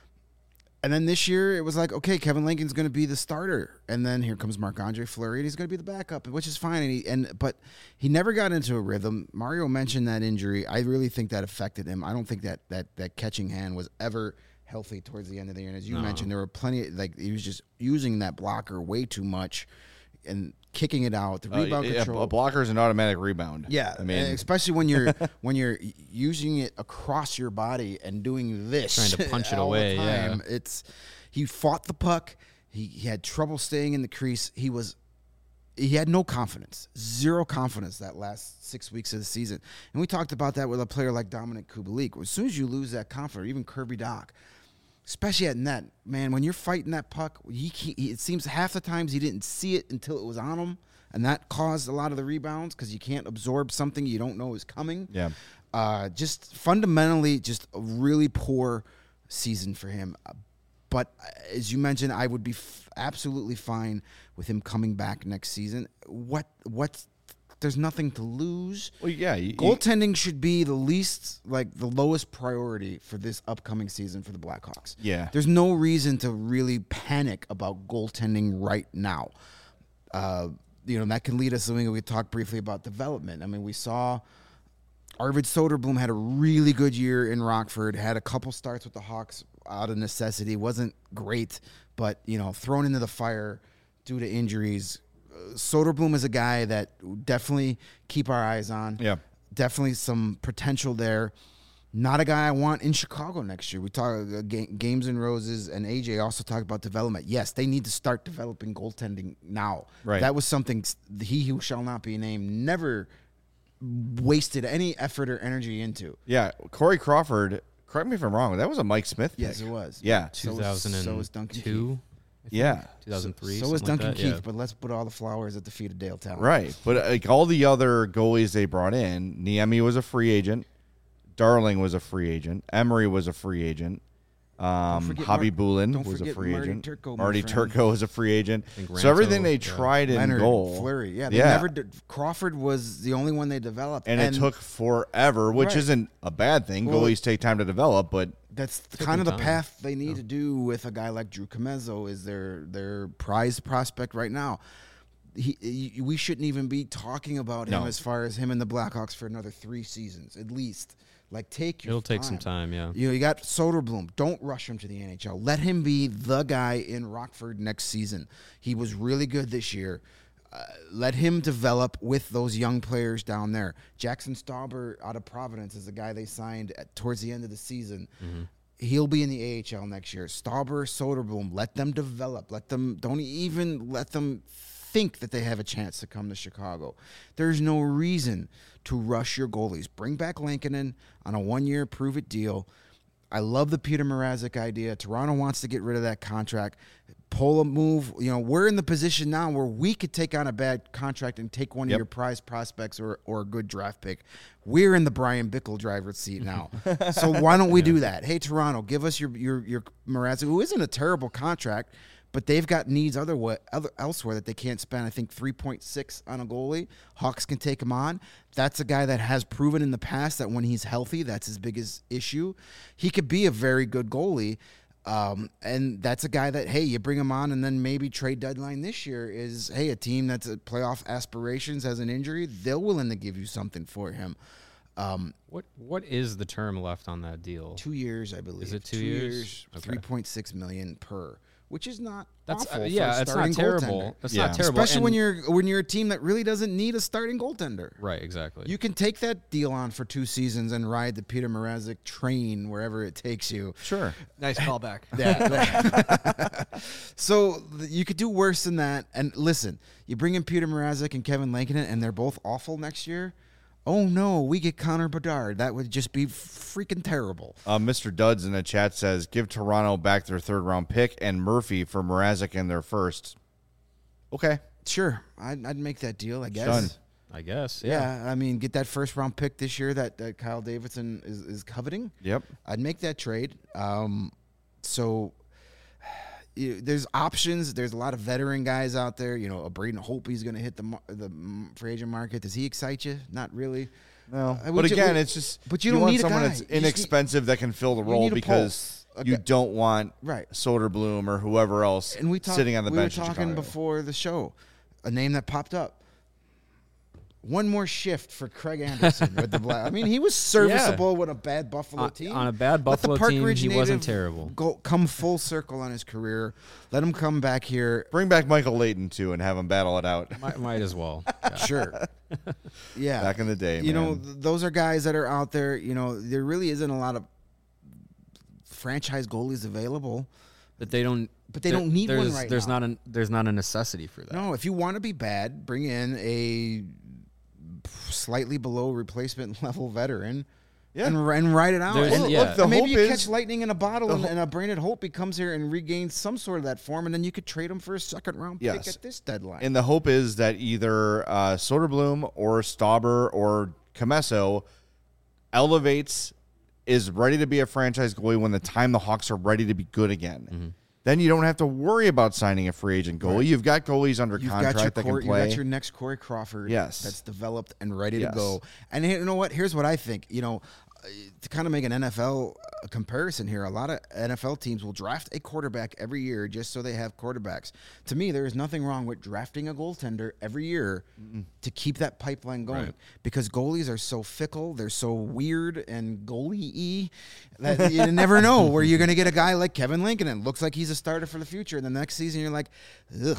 [SPEAKER 2] And then this year, it was like, okay, Kevin Lankinen's going to be the starter, and then here comes Marc-Andre Fleury, and he's going to be the backup, which is fine. And, he, and but he never got into a rhythm. Mario mentioned that injury. I really think that affected him. I don't think that that that catching hand was ever healthy towards the end of the year. And as you
[SPEAKER 3] No.
[SPEAKER 2] mentioned, there were plenty. Like he was just using that blocker way too much, and kicking it out. The rebound
[SPEAKER 1] Uh,
[SPEAKER 2] control.
[SPEAKER 1] a, a blocker is an automatic rebound.
[SPEAKER 2] Yeah,
[SPEAKER 1] I mean,
[SPEAKER 2] especially when you're when you're using it across your body and doing this,
[SPEAKER 3] Trying to punch it
[SPEAKER 2] all the
[SPEAKER 3] away, yeah.
[SPEAKER 2] time. It's he fought the puck. He, he had trouble staying in the crease. He was he had no confidence, zero confidence that last six weeks of the season. And we talked about that with a player like Dominic Kubalik. As soon as you lose that confidence, even Kirby Doc, especially at net, man, when you're fighting that puck, he, he, it seems half the times he didn't see it until it was on him. And that caused a lot of the rebounds because you can't absorb something you don't know is coming.
[SPEAKER 1] yeah.
[SPEAKER 2] Uh, just fundamentally, just a really poor season for him. Uh, But as you mentioned, I would be f- absolutely fine with him coming back next season. What? What? There's nothing to lose.
[SPEAKER 1] Well, yeah. You, you-
[SPEAKER 2] Goaltending should be the least, like the lowest priority for this upcoming season for the Blackhawks.
[SPEAKER 1] Yeah.
[SPEAKER 2] There's no reason to really panic about goaltending right now. Uh, you know, that can lead us to something we talked briefly about development. I mean, we saw Arvid Soderblom had a really good year in Rockford, had a couple starts with the Hawks out of necessity. Wasn't great, but, you know, thrown into the fire due to injuries. Uh, Soderblom is a guy that definitely keep our eyes on.
[SPEAKER 1] Yeah.
[SPEAKER 2] Definitely some potential there. Not a guy I want in Chicago next year. We talk uh, ga- Games and Roses and A J also talk about development. Yes, they need to start developing goaltending now.
[SPEAKER 1] Right.
[SPEAKER 2] That was something s- he who shall not be named never wasted any effort or energy into.
[SPEAKER 1] Yeah, Corey Crawford. Correct me if I'm wrong. That was a Mike Smith pick.
[SPEAKER 2] Yes, it was.
[SPEAKER 1] Yeah.
[SPEAKER 2] So
[SPEAKER 3] two
[SPEAKER 2] was-
[SPEAKER 3] thousand
[SPEAKER 2] so was Duncan
[SPEAKER 3] two.
[SPEAKER 1] Yeah.
[SPEAKER 3] two thousand three.
[SPEAKER 2] So was Duncan
[SPEAKER 3] like that.
[SPEAKER 2] Keith,
[SPEAKER 3] Yeah.
[SPEAKER 2] but let's put all the flowers at the feet of Dale Talon.
[SPEAKER 1] Right. But like all the other goalies they brought in, Niemi was a free agent. Darling was a free agent. Emery was a free agent. Um,
[SPEAKER 2] forget
[SPEAKER 1] Hobby
[SPEAKER 2] Mar-
[SPEAKER 1] Bulin
[SPEAKER 2] don't
[SPEAKER 1] was a
[SPEAKER 2] forget
[SPEAKER 1] free
[SPEAKER 2] Marty
[SPEAKER 1] agent.
[SPEAKER 2] Turco, my
[SPEAKER 1] Marty
[SPEAKER 2] friend.
[SPEAKER 1] Turco was a free agent.
[SPEAKER 3] think
[SPEAKER 1] So everything
[SPEAKER 3] Ranto,
[SPEAKER 1] they
[SPEAKER 3] yeah.
[SPEAKER 1] tried in
[SPEAKER 2] Leonard,
[SPEAKER 1] goal,
[SPEAKER 2] Fleury. Yeah, they
[SPEAKER 1] yeah.
[SPEAKER 2] never did. Crawford was the only one they developed.
[SPEAKER 1] and, it took forever, which
[SPEAKER 2] Right.
[SPEAKER 1] isn't a bad thing.
[SPEAKER 2] Well,
[SPEAKER 1] Goalies take time to develop, but
[SPEAKER 2] That's kind of the
[SPEAKER 3] time.
[SPEAKER 2] path they need to do with a guy like Drew Comezzo is their their prize prospect right now. He, he- we shouldn't even be talking about him
[SPEAKER 1] No.
[SPEAKER 2] as far as him and the Blackhawks for another three seasons at least. Like take your
[SPEAKER 3] It'll take some time. Yeah.
[SPEAKER 2] You know, you got Soderblom. Don't rush him to the N H L. Let him be the guy in Rockford next season. He was really good this year. Uh, let him develop with those young players down there. Jackson Stauber out of Providence is the guy they signed at, towards the end of the season. He'll be in the A H L next year. Stauber, Soderblom, let them develop. Let them don't even let them think that they have a chance to come to Chicago. There's no reason to rush your goalies. Bring back Lankinen on a one-year prove-it deal. I love the Peter Mrazek idea. Toronto wants to get rid of that contract. Pull a move. You know, we're in the position now where we could take on a bad contract and take one
[SPEAKER 1] Yep.
[SPEAKER 2] of your prize prospects or, or a good draft pick. We're in the Brian Bickle driver's seat now. So why don't we do that? Hey, Toronto, give us your your your Mrazek, who isn't a terrible contract, but they've got needs other, way, other elsewhere that they can't spend. I think three point six on a goalie. Hawks can take him on. That's a guy that has proven in the past that when he's healthy, that's his biggest issue. He could be a very good goalie. Um, and that's a guy that, hey, you bring him on, and then maybe trade deadline this year is, hey, a team that's a playoff aspirations has an injury, they're willing to give you something for him. Um,
[SPEAKER 3] What What is the term left on that deal?
[SPEAKER 2] two years, I believe.
[SPEAKER 3] Is it two years? Okay.
[SPEAKER 2] three point six million per, which is not
[SPEAKER 3] That's
[SPEAKER 2] awful
[SPEAKER 3] uh,
[SPEAKER 2] for
[SPEAKER 3] yeah.
[SPEAKER 2] a
[SPEAKER 3] It's
[SPEAKER 2] starting
[SPEAKER 3] not terrible.
[SPEAKER 2] goaltender.
[SPEAKER 3] That's
[SPEAKER 1] Yeah.
[SPEAKER 3] not terrible.
[SPEAKER 2] Especially when
[SPEAKER 3] And-
[SPEAKER 2] you're when you're a team that really doesn't need a starting goaltender.
[SPEAKER 3] right. Exactly.
[SPEAKER 2] You can take that deal on for two seasons and ride the Peter Mrazek train wherever it takes you.
[SPEAKER 1] sure.
[SPEAKER 4] Nice callback.
[SPEAKER 2] Yeah. So th- you could do worse than that. And listen, you bring in Peter Mrazek and Kevin Lankinen, and they're both awful next year. Oh no, we get Connor Bedard. That would just be freaking terrible.
[SPEAKER 1] Uh, Mister Duds in the chat says, give Toronto back their third round pick and Murphy for Mrazek in their first. Okay.
[SPEAKER 2] Sure, I'd, I'd make that deal. I guess.
[SPEAKER 1] Done.
[SPEAKER 3] I guess. Yeah.
[SPEAKER 2] Yeah, I mean, get that first round pick this year that, that Kyle Davidson is, is coveting.
[SPEAKER 1] Yep.
[SPEAKER 2] I'd make that trade. Um, so you, there's options. There's a lot of veteran guys out there. You know, a Braden Holtby's going to hit the mar- the mm, free agent market. Does he excite you? Not really.
[SPEAKER 1] No.
[SPEAKER 2] Uh,
[SPEAKER 1] but
[SPEAKER 2] we ju-
[SPEAKER 1] again,
[SPEAKER 2] we-
[SPEAKER 1] it's just
[SPEAKER 2] but you don't
[SPEAKER 1] want
[SPEAKER 2] need a
[SPEAKER 1] someone
[SPEAKER 2] guy.
[SPEAKER 1] that's
[SPEAKER 2] You just need-
[SPEAKER 1] inexpensive that can fill the
[SPEAKER 2] you
[SPEAKER 1] role
[SPEAKER 2] need a
[SPEAKER 1] because
[SPEAKER 2] pulse. A
[SPEAKER 1] you
[SPEAKER 2] guy-
[SPEAKER 1] don't want
[SPEAKER 2] Right.
[SPEAKER 1] Soderblom or whoever else
[SPEAKER 2] And we talked.
[SPEAKER 1] sitting on the
[SPEAKER 2] we
[SPEAKER 1] bench
[SPEAKER 2] were
[SPEAKER 1] in
[SPEAKER 2] talking
[SPEAKER 1] Chicago.
[SPEAKER 2] before the show. A name that popped up. One more shift for Craig Anderson with the Black. I mean, he was serviceable with a bad Buffalo
[SPEAKER 3] On-
[SPEAKER 2] team.
[SPEAKER 3] on a bad
[SPEAKER 2] Let the
[SPEAKER 3] Buffalo
[SPEAKER 2] Park
[SPEAKER 3] team,
[SPEAKER 2] Ridge
[SPEAKER 3] he wasn't
[SPEAKER 2] native
[SPEAKER 3] terrible.
[SPEAKER 2] Go come full circle on his career. Let him come back here.
[SPEAKER 1] Bring back Michael Layton, too, and have him battle it out.
[SPEAKER 3] might, might as well. Yeah.
[SPEAKER 2] Sure. Yeah.
[SPEAKER 1] Back in the day,
[SPEAKER 2] You know,
[SPEAKER 1] man.
[SPEAKER 2] th- those are guys that are out there. You know, there really isn't a lot of franchise goalies available.
[SPEAKER 3] But they don't.
[SPEAKER 2] But they
[SPEAKER 3] there-
[SPEAKER 2] don't need one
[SPEAKER 3] there's-
[SPEAKER 2] right
[SPEAKER 3] There's
[SPEAKER 2] now.
[SPEAKER 3] not a there's not a necessity for that.
[SPEAKER 2] No, if you want to be bad, bring in a slightly below replacement level veteran.
[SPEAKER 1] Yeah.
[SPEAKER 2] And, and ride it out.
[SPEAKER 3] There's-
[SPEAKER 2] And,
[SPEAKER 3] Well, yeah.
[SPEAKER 1] look, the
[SPEAKER 2] and maybe
[SPEAKER 1] hope
[SPEAKER 2] you
[SPEAKER 1] is-
[SPEAKER 2] catch lightning in a bottle,
[SPEAKER 1] the
[SPEAKER 2] and,
[SPEAKER 1] ho-
[SPEAKER 2] and a Brandon Holtby comes here and regains some sort of that form, and then you could trade him for a second round
[SPEAKER 1] Yes.
[SPEAKER 2] pick at this deadline.
[SPEAKER 1] And the hope is that either uh, Soderblom or Stauber or Comesso elevates, is ready to be a franchise goalie when the time the Hawks are ready to be good again.
[SPEAKER 2] Mm-hmm.
[SPEAKER 1] Then you don't have to worry about signing a free agent goalie. You've got goalies under
[SPEAKER 2] You've
[SPEAKER 1] contract
[SPEAKER 2] got your
[SPEAKER 1] that
[SPEAKER 2] Cor-
[SPEAKER 1] can
[SPEAKER 2] you
[SPEAKER 1] play.
[SPEAKER 2] got your next Corey Crawford.
[SPEAKER 1] Yes.
[SPEAKER 2] That's developed and ready
[SPEAKER 1] Yes.
[SPEAKER 2] to go. And here- you know what? Here's what I think. You know, uh, to kind of make an N F L comparison here, a lot of N F L teams will draft a quarterback every year just so they have quarterbacks. To me, there is nothing wrong with drafting a goaltender every year to keep that pipeline going,
[SPEAKER 3] Right.
[SPEAKER 2] because goalies are so fickle, they're so weird and goalie-y that you never know where you're going to get a guy like Kevin Lincoln. Looks like he's a starter for the future. And the next season, you're like, ugh.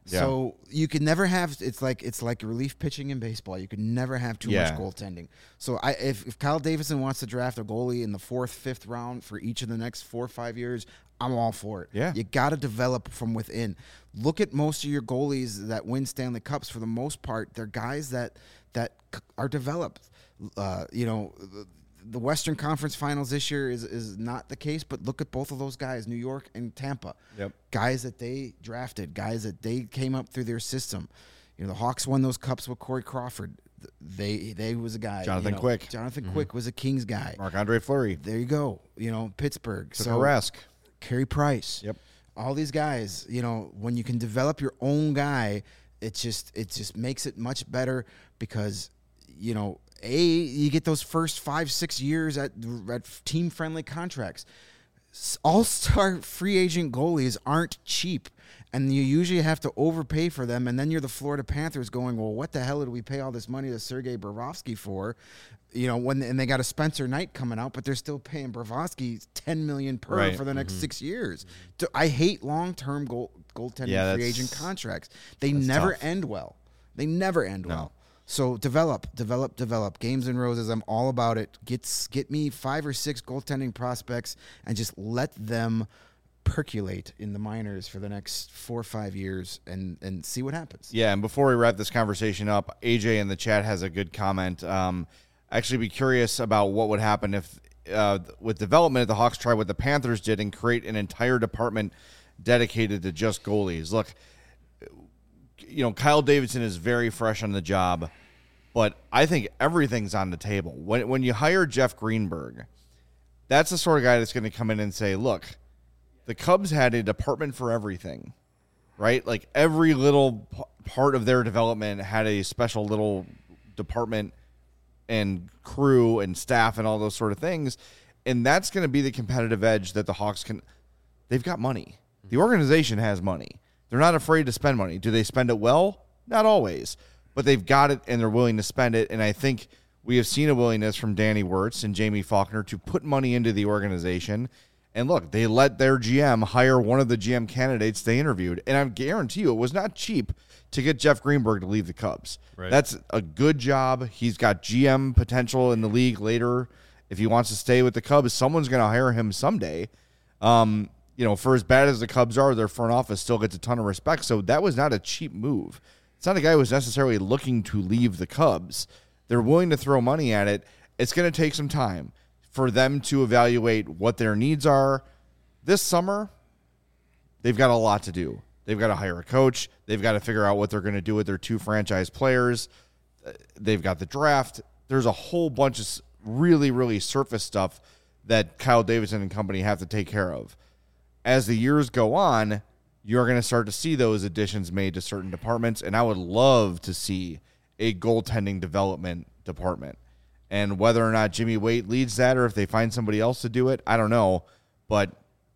[SPEAKER 1] Yeah.
[SPEAKER 2] So you can never have. It's like it's like relief pitching in baseball. You can never have too
[SPEAKER 1] Yeah.
[SPEAKER 2] much goaltending. So I, if, if Kyle Davidson wants to draft a goalie in the fourth, fifth round for each of the next four or five years, I'm all for it.
[SPEAKER 1] Yeah.
[SPEAKER 2] You got to develop from within. Look at most of your goalies that win Stanley Cups. For the most part, they're guys that that c- are developed. Uh, you know. The, The Western Conference Finals this year is, is not the case, but look at both of those guys, New York and Tampa.
[SPEAKER 1] Yep.
[SPEAKER 2] Guys that they drafted, guys that they came up through their system. You know, the Hawks won those cups with Corey Crawford. They they was a guy.
[SPEAKER 1] Jonathan
[SPEAKER 2] you know,
[SPEAKER 1] Quick.
[SPEAKER 2] Jonathan
[SPEAKER 3] Mm-hmm.
[SPEAKER 2] Quick was a Kings guy.
[SPEAKER 1] Marc-Andre Fleury.
[SPEAKER 2] There you go. You know, Pittsburgh.
[SPEAKER 1] Took
[SPEAKER 2] so
[SPEAKER 1] a risk.
[SPEAKER 2] Carey Price.
[SPEAKER 1] Yep.
[SPEAKER 2] All these guys, you know, when you can develop your own guy, it just it just makes it much better because, you know, A, you get those first five, six years at, at team-friendly contracts. S- All-star free agent goalies aren't cheap, and you usually have to overpay for them, and then you're the Florida Panthers going, well, what the hell did we pay all this money to Sergei Bobrovsky for? You know, when and they got a Spencer Knight coming out, but they're still paying Bobrovsky ten million dollars per
[SPEAKER 1] Right.
[SPEAKER 2] for the next six years. So I hate long-term goal, goaltending
[SPEAKER 1] Yeah,
[SPEAKER 2] free
[SPEAKER 1] that's-
[SPEAKER 2] agent contracts. They
[SPEAKER 1] that's
[SPEAKER 2] never
[SPEAKER 1] tough.
[SPEAKER 2] end well. They never end
[SPEAKER 1] No.
[SPEAKER 2] well. So develop, develop, develop. Games and Roses, I'm all about it. Get get me five or six goaltending prospects and just let them percolate in the minors for the next four or five years and, and see what happens.
[SPEAKER 1] Yeah, and before we wrap this conversation up, A J in the chat has a good comment. Um, actually, be curious about what would happen if, uh, with development, if the Hawks try what the Panthers did and create an entire department dedicated to just goalies. Look, you know, Kyle Davidson is very fresh on the job, but I think everything's on the table. When when you hire Jeff Greenberg, that's the sort of guy that's going to come in and say, look, the Cubs had a department for everything, right? Like every little p- part of their development had a special little department and crew and staff and all those sort of things. And that's going to be the competitive edge that the Hawks can. They've got money. The organization has money. They're not afraid to spend money. Do they spend it well? Not always. But they've got it and they're willing to spend it. And I think we have seen a willingness from Danny Wirtz and Jamie Faulkner to put money into the organization. And look, they let their G M hire one of the G M candidates they interviewed. And I guarantee you it was not cheap to get Jeff Greenberg to leave the Cubs.
[SPEAKER 3] Right.
[SPEAKER 1] That's a good job. He's got G M potential in the league later. If he wants to stay with the Cubs, someone's going to hire him someday. Um, you know, for as bad as the Cubs are, their front office still gets a ton of respect. So that was not a cheap move. It's not a guy who was necessarily looking to leave the Cubs. They're willing to throw money at it. It's going to take some time for them to evaluate what their needs are. This summer, they've got a lot to do. They've got to hire a coach. They've got to figure out what they're going to do with their two franchise players. They've got the draft. There's a whole bunch of really, really surface stuff that Kyle Davidson and company have to take care of. As the years go on, you're going to start to see those additions made to certain departments, and I would love to see a goaltending development department. And whether or not Jimmy Waite leads that or if they find somebody else to do it, I don't know. But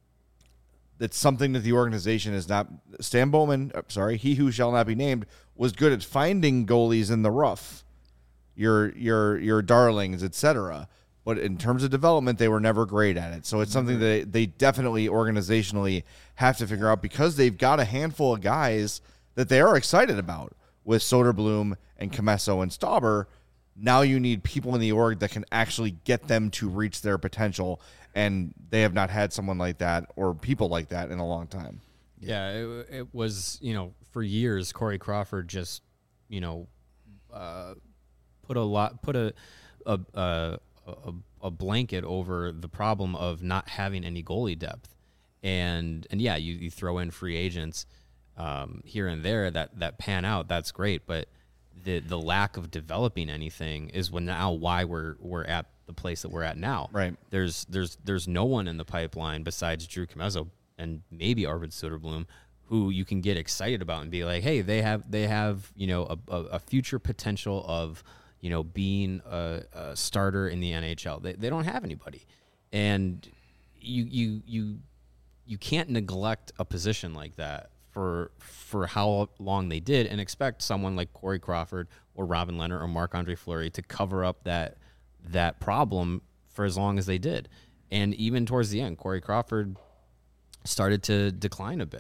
[SPEAKER 1] it's something that the organization is not. Stan Bowman, uh, sorry, he who shall not be named, was good at finding goalies in the rough, your your your darlings, et cetera. But in terms of development, they were never great at it. So it's something that they, they definitely organizationally have to figure out because they've got a handful of guys that they are excited about with Soderblom and Comesso and Stauber. Now you need people in the org that can actually get them to reach their potential, and they have not had someone like that or people like that in a long time.
[SPEAKER 3] Yeah, it, it was, you know, for years, Corey Crawford just, you know, uh, put a lot, put a, a, a, a, a blanket over the problem of not having any goalie depth. And, and yeah, you, you throw in free agents um, here and there that, that pan out. That's great. But the, the lack of developing anything is when now why we're, we're at the place that we're at now.
[SPEAKER 1] Right. There's,
[SPEAKER 3] There's, there's no one in the pipeline besides Drew Comesso and maybe Arvid Soderblom, who you can get excited about and be like, hey, they have they have you know a, a, a future potential of you know being a, a starter in the N H L. They they don't have anybody, and you you you you can't neglect a position like that for for how long they did and expect someone like Corey Crawford or Robin Leonard or Marc-Andre Fleury to cover up that that problem for as long as they did. And even towards the end, Corey Crawford started to decline a bit.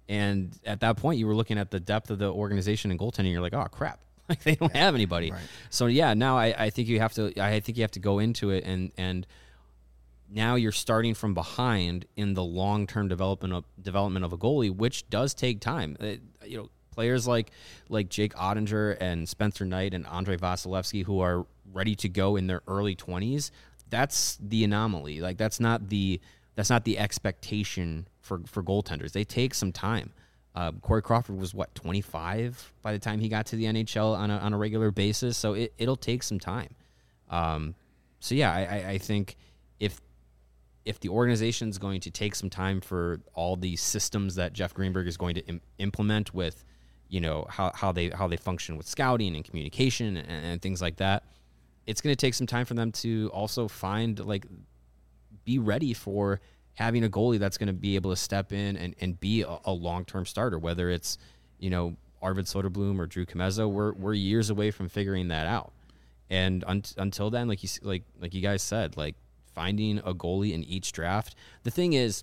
[SPEAKER 3] And at that point, you were looking at the depth of the organization and goaltending. You're like, oh crap, like they don't have anybody.
[SPEAKER 2] Right.
[SPEAKER 3] So yeah, now I, I think you have to. I think you have to go into it and and now you're starting from behind in the long term development of development of a goalie, which does take time. It, you know, players like like Jake Ottinger and Spencer Knight and Andrei Vasilevsky who are ready to go in their early twenties. That's the anomaly. Like that's not the that's not the expectation for, for goaltenders. They take some time. Uh, Corey Crawford was what twenty-five by the time he got to the N H L on a on a regular basis. So it it'll take some time. Um, so yeah, I, I, I think if if the organization is going to take some time for all the systems that Jeff Greenberg is going to im- implement with, you know, how, how they how they function with scouting and communication and, and things like that, it's going to take some time for them to also find, like, be ready for having a goalie that's going to be able to step in and, and be a, a long-term starter, whether it's, you know, Arvid Soderblom or Drew Comezzo. We're, we're years away from figuring that out. And un- until then, like you, like, like you guys said, like, finding a goalie in each draft. The thing is,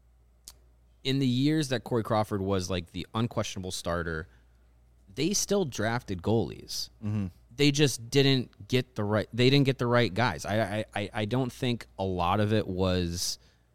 [SPEAKER 3] in the years that Corey Crawford was like the unquestionable starter, they still drafted goalies. Mm-hmm. They just didn't get the right. They didn't get the right guys. I, I, I don't think a lot of it was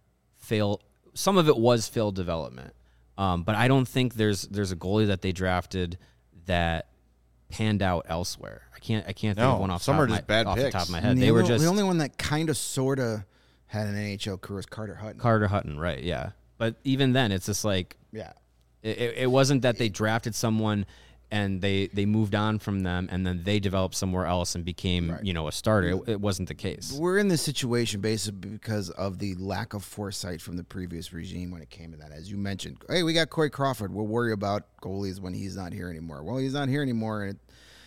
[SPEAKER 3] fail. Some of it was failed development, um, but I don't think there's there's a goalie that they drafted that panned out elsewhere. I can't I can't think
[SPEAKER 1] No,
[SPEAKER 3] of one off,
[SPEAKER 1] some
[SPEAKER 3] top,
[SPEAKER 1] are
[SPEAKER 3] of my,
[SPEAKER 1] just bad
[SPEAKER 3] off the
[SPEAKER 1] picks.
[SPEAKER 3] top of my head.
[SPEAKER 2] And
[SPEAKER 3] They
[SPEAKER 2] the
[SPEAKER 3] were
[SPEAKER 2] only-
[SPEAKER 3] just
[SPEAKER 2] the only one that kind of sort of had an N H L career was Carter Hutton.
[SPEAKER 3] Carter Hutton, right? Yeah, but even then, it's just like
[SPEAKER 2] yeah.
[SPEAKER 3] It, it wasn't that they drafted someone and they, they moved on from them and then they developed somewhere else and became,
[SPEAKER 2] Right.
[SPEAKER 3] you know, a starter. It, it wasn't the case.
[SPEAKER 2] We're in this situation basically because of the lack of foresight from the previous regime when it came to that. As you mentioned, hey, we got Corey Crawford. We'll worry about goalies when he's not here anymore. Well, he's not here anymore. And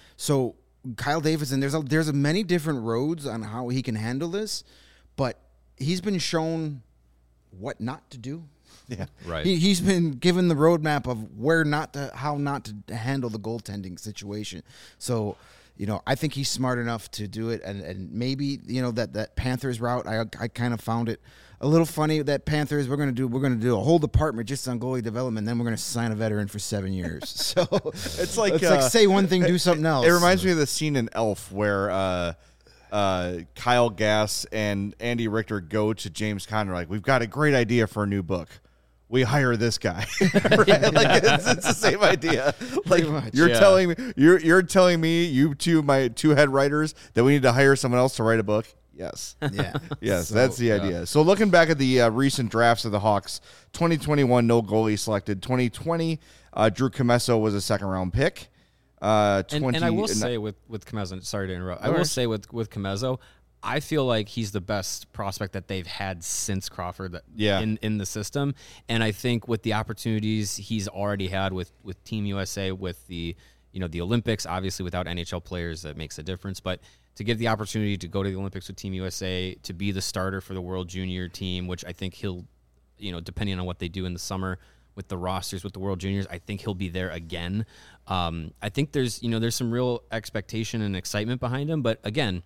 [SPEAKER 2] so Kyle Davidson, there's a, there's a many different roads on how he can handle this, but he's been shown what not to do.
[SPEAKER 1] Yeah.
[SPEAKER 3] Right.
[SPEAKER 2] He, he's been given the roadmap of where not to, how not to handle the goaltending situation. So, you know, I think he's smart enough to do it. And, and maybe, you know, that, that Panthers route, I I kind of found it a little funny that Panthers, we're going to do, we're going to do a whole department just on goalie development. Then we're going to sign a veteran for seven years. So
[SPEAKER 1] It's like,
[SPEAKER 2] it's
[SPEAKER 1] uh,
[SPEAKER 2] like say one thing, do something else.
[SPEAKER 1] It reminds me of the scene in Elf where uh, uh, Kyle Gass and Andy Richter go to James Conner like, we've got a great idea for a new book. We hire this guy. Right? Like it's, it's the same idea. Like
[SPEAKER 2] much.
[SPEAKER 1] you're
[SPEAKER 3] Yeah.
[SPEAKER 1] telling me, you're you're telling me, you two, my two head writers, that we need to hire someone else to write a book. Yes.
[SPEAKER 2] Yeah.
[SPEAKER 1] Yes,
[SPEAKER 2] So,
[SPEAKER 1] that's the idea. So looking back at the uh, recent drafts of the Hawks, twenty twenty-one, no goalie selected. twenty twenty, uh, Drew Comezzo was a second round pick. Uh,
[SPEAKER 3] And,
[SPEAKER 1] twenty,
[SPEAKER 3] and I will say with, with Comezzo, sorry to interrupt. I will say with, with Comezzo, I feel like he's the best prospect that they've had since Crawford that-
[SPEAKER 1] Yeah.
[SPEAKER 3] in, in the system. And I think with the opportunities he's already had with, with Team U S A, with the, you know, the Olympics, obviously without N H L players, that makes a difference. But to get the opportunity to go to the Olympics with Team U S A, to be the starter for the World Junior team, which I think he'll, you know, depending on what they do in the summer with the rosters with the World Juniors, I think he'll be there again. Um, I think there's, you know, there's some real expectation and excitement behind him. But again,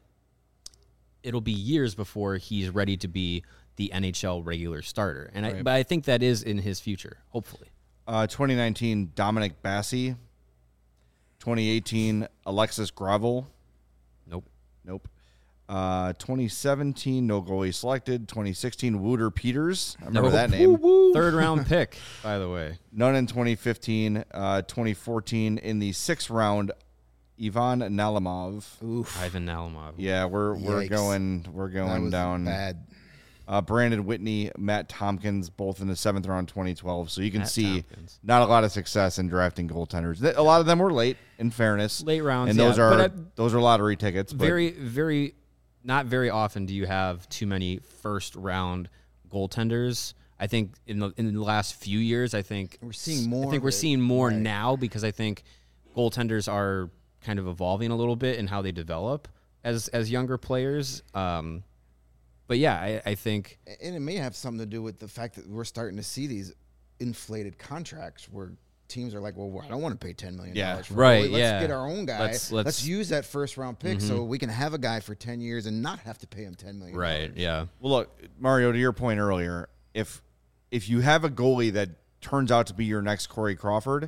[SPEAKER 3] it'll be years before he's ready to be the N H L regular starter. And I, but I think that is in his future, hopefully.
[SPEAKER 1] Uh, twenty nineteen, Dominic Bassi. twenty eighteen, Alexis Gravel.
[SPEAKER 3] Nope.
[SPEAKER 1] Nope. Uh, twenty seventeen, no goalie selected. twenty sixteen, Wooter Peters. I remember
[SPEAKER 3] Nope.
[SPEAKER 1] that name.
[SPEAKER 3] Third round pick, by the way.
[SPEAKER 1] None in twenty fifteen. Uh, twenty fourteen, in the sixth round, Ivan Nalimov.
[SPEAKER 2] Oof.
[SPEAKER 3] Ivan Nalimov.
[SPEAKER 1] Yeah, we're we're
[SPEAKER 2] Yikes.
[SPEAKER 1] going we're
[SPEAKER 2] That
[SPEAKER 1] going
[SPEAKER 2] was
[SPEAKER 1] down.
[SPEAKER 2] bad.
[SPEAKER 1] Uh, Brandon Whitney, Matt Tompkins, both in the seventh round, twenty twelve. So you can
[SPEAKER 3] Matt
[SPEAKER 1] see
[SPEAKER 3] Tompkins.
[SPEAKER 1] not a lot of success in drafting goaltenders. Th- A lot of them were late, in fairness,
[SPEAKER 3] Late rounds,
[SPEAKER 1] and those
[SPEAKER 3] yeah,
[SPEAKER 1] are
[SPEAKER 3] but I-
[SPEAKER 1] those are lottery tickets. But
[SPEAKER 3] Very, very, not very often do you have too many first round goaltenders. I think in the in the last few years, I think
[SPEAKER 2] We're seeing more
[SPEAKER 3] I think
[SPEAKER 2] of
[SPEAKER 3] we're
[SPEAKER 2] it.
[SPEAKER 3] seeing more
[SPEAKER 2] Right.
[SPEAKER 3] now because I think goaltenders are kind of evolving a little bit in how they develop as as younger players. Um, but yeah, I, I think
[SPEAKER 2] And it may have something to do with the fact that we're starting to see these inflated contracts where teams are like, well, I don't want to pay ten million dollars.
[SPEAKER 1] Yeah.
[SPEAKER 2] for a
[SPEAKER 3] Right,
[SPEAKER 2] goalie. Let's
[SPEAKER 3] yeah.
[SPEAKER 2] get our own guy.
[SPEAKER 3] Let's-
[SPEAKER 2] Let's,
[SPEAKER 3] let's-
[SPEAKER 2] use that first round pick so we can have a guy for ten years and not have to pay him ten million dollars.
[SPEAKER 3] right, yeah,
[SPEAKER 1] well, look, Mario, to your point earlier, if if you have a goalie that turns out to be your next Corey Crawford,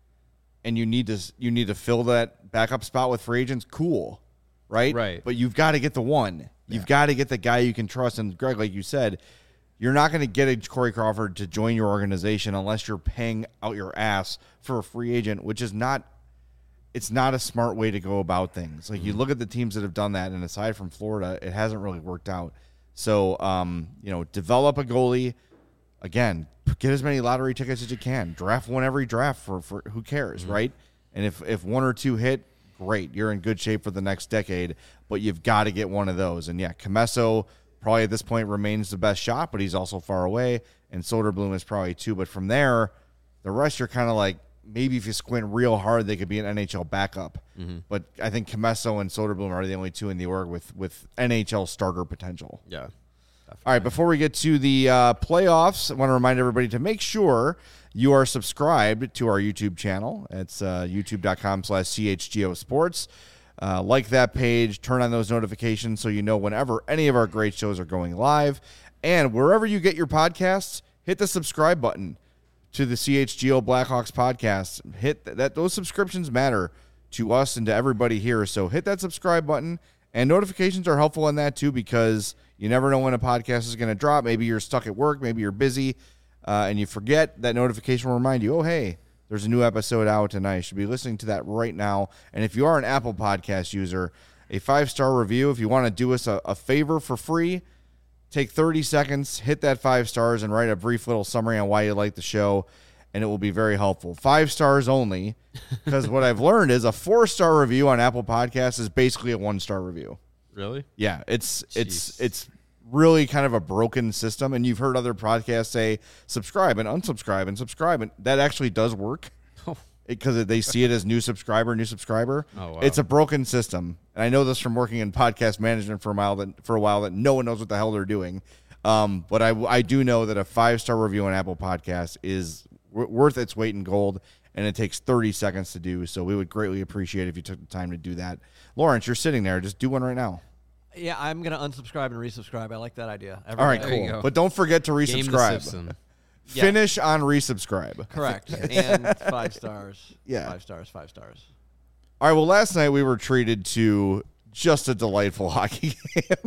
[SPEAKER 1] and you need to you need to fill that backup spot with free agents, cool, right?
[SPEAKER 3] Right.
[SPEAKER 1] But you've got to get the one. You've
[SPEAKER 2] Yeah.
[SPEAKER 1] got to get the guy you can trust. And Greg, like you said, you're not going to get a Corey Crawford to join your organization unless you're paying out your ass for a free agent, which is not it's not a smart way to go about things. Like, mm-hmm. you look at the teams that have done that, and aside from Florida, it hasn't really worked out. So, um, you know, develop a goalie. Again, get as many lottery tickets as you can. Draft one every draft for, for who cares, mm-hmm. right? And if, if one or two hit, great. You're in good shape for the next decade, but you've got to get one of those. And, yeah, Comesso probably at this point remains the best shot, but he's also far away, and Soderblom is probably too. But from there, the rest you're kind of like, maybe if you squint real hard, they could be an N H L backup. Mm-hmm. But I think Comesso and Soderblom are the only two in the org with, with N H L starter potential.
[SPEAKER 3] Yeah.
[SPEAKER 1] All right, before we get to the uh, playoffs, I want to remind everybody to make sure you are subscribed to our YouTube channel. It's uh, youtube.com slash CHGO Sports. Uh, like that page, turn on those notifications so you know whenever any of our great shows are going live. And wherever you get your podcasts, hit the subscribe button to the C H G O Blackhawks podcast. Hit th- that; those subscriptions matter to us and to everybody here. So hit that subscribe button, and notifications are helpful in that too, because you never know when a podcast is going to drop. Maybe you're stuck at work, maybe you're busy, uh, and you forget. That notification will remind you, oh, hey, there's a new episode out, and I should be listening to that right now. And if you are an Apple Podcast user, a five-star review, if you want to do us a, a favor for free, take thirty seconds, hit that five stars, and write a brief little summary on why you like the show, and it will be very helpful. Five stars only, because what I've learned is a four-star review on Apple Podcasts is basically a one-star review.
[SPEAKER 3] Really?
[SPEAKER 1] Yeah, it's
[SPEAKER 3] Jeez. it's
[SPEAKER 1] it's really kind of a broken system, and you've heard other podcasts say subscribe and unsubscribe and subscribe, and that actually does work.
[SPEAKER 3] Oh.
[SPEAKER 1] Because they see it as new subscriber, new subscriber.
[SPEAKER 3] Oh, wow.
[SPEAKER 1] It's a broken system. And I know this from working in podcast management for a while that for a while that no one knows what the hell they're doing. Um, but I, I do know that a five-star review on Apple Podcasts is w- worth its weight in gold, and it takes thirty seconds to do. So we would greatly appreciate it if you took the time to do that. Lawrence, you're sitting there. Just do one right now.
[SPEAKER 4] Yeah, I'm going to unsubscribe and resubscribe. I like that idea. Every
[SPEAKER 1] All right,
[SPEAKER 4] day.
[SPEAKER 3] There you
[SPEAKER 1] cool.
[SPEAKER 3] go.
[SPEAKER 1] But don't forget to
[SPEAKER 3] Game the
[SPEAKER 1] resubscribe.
[SPEAKER 3] system.
[SPEAKER 4] Yeah.
[SPEAKER 1] Finish on resubscribe.
[SPEAKER 4] Correct. And five stars.
[SPEAKER 1] Yeah.
[SPEAKER 4] Five stars, five stars.
[SPEAKER 1] All right, well, last night we were treated to just a delightful hockey game.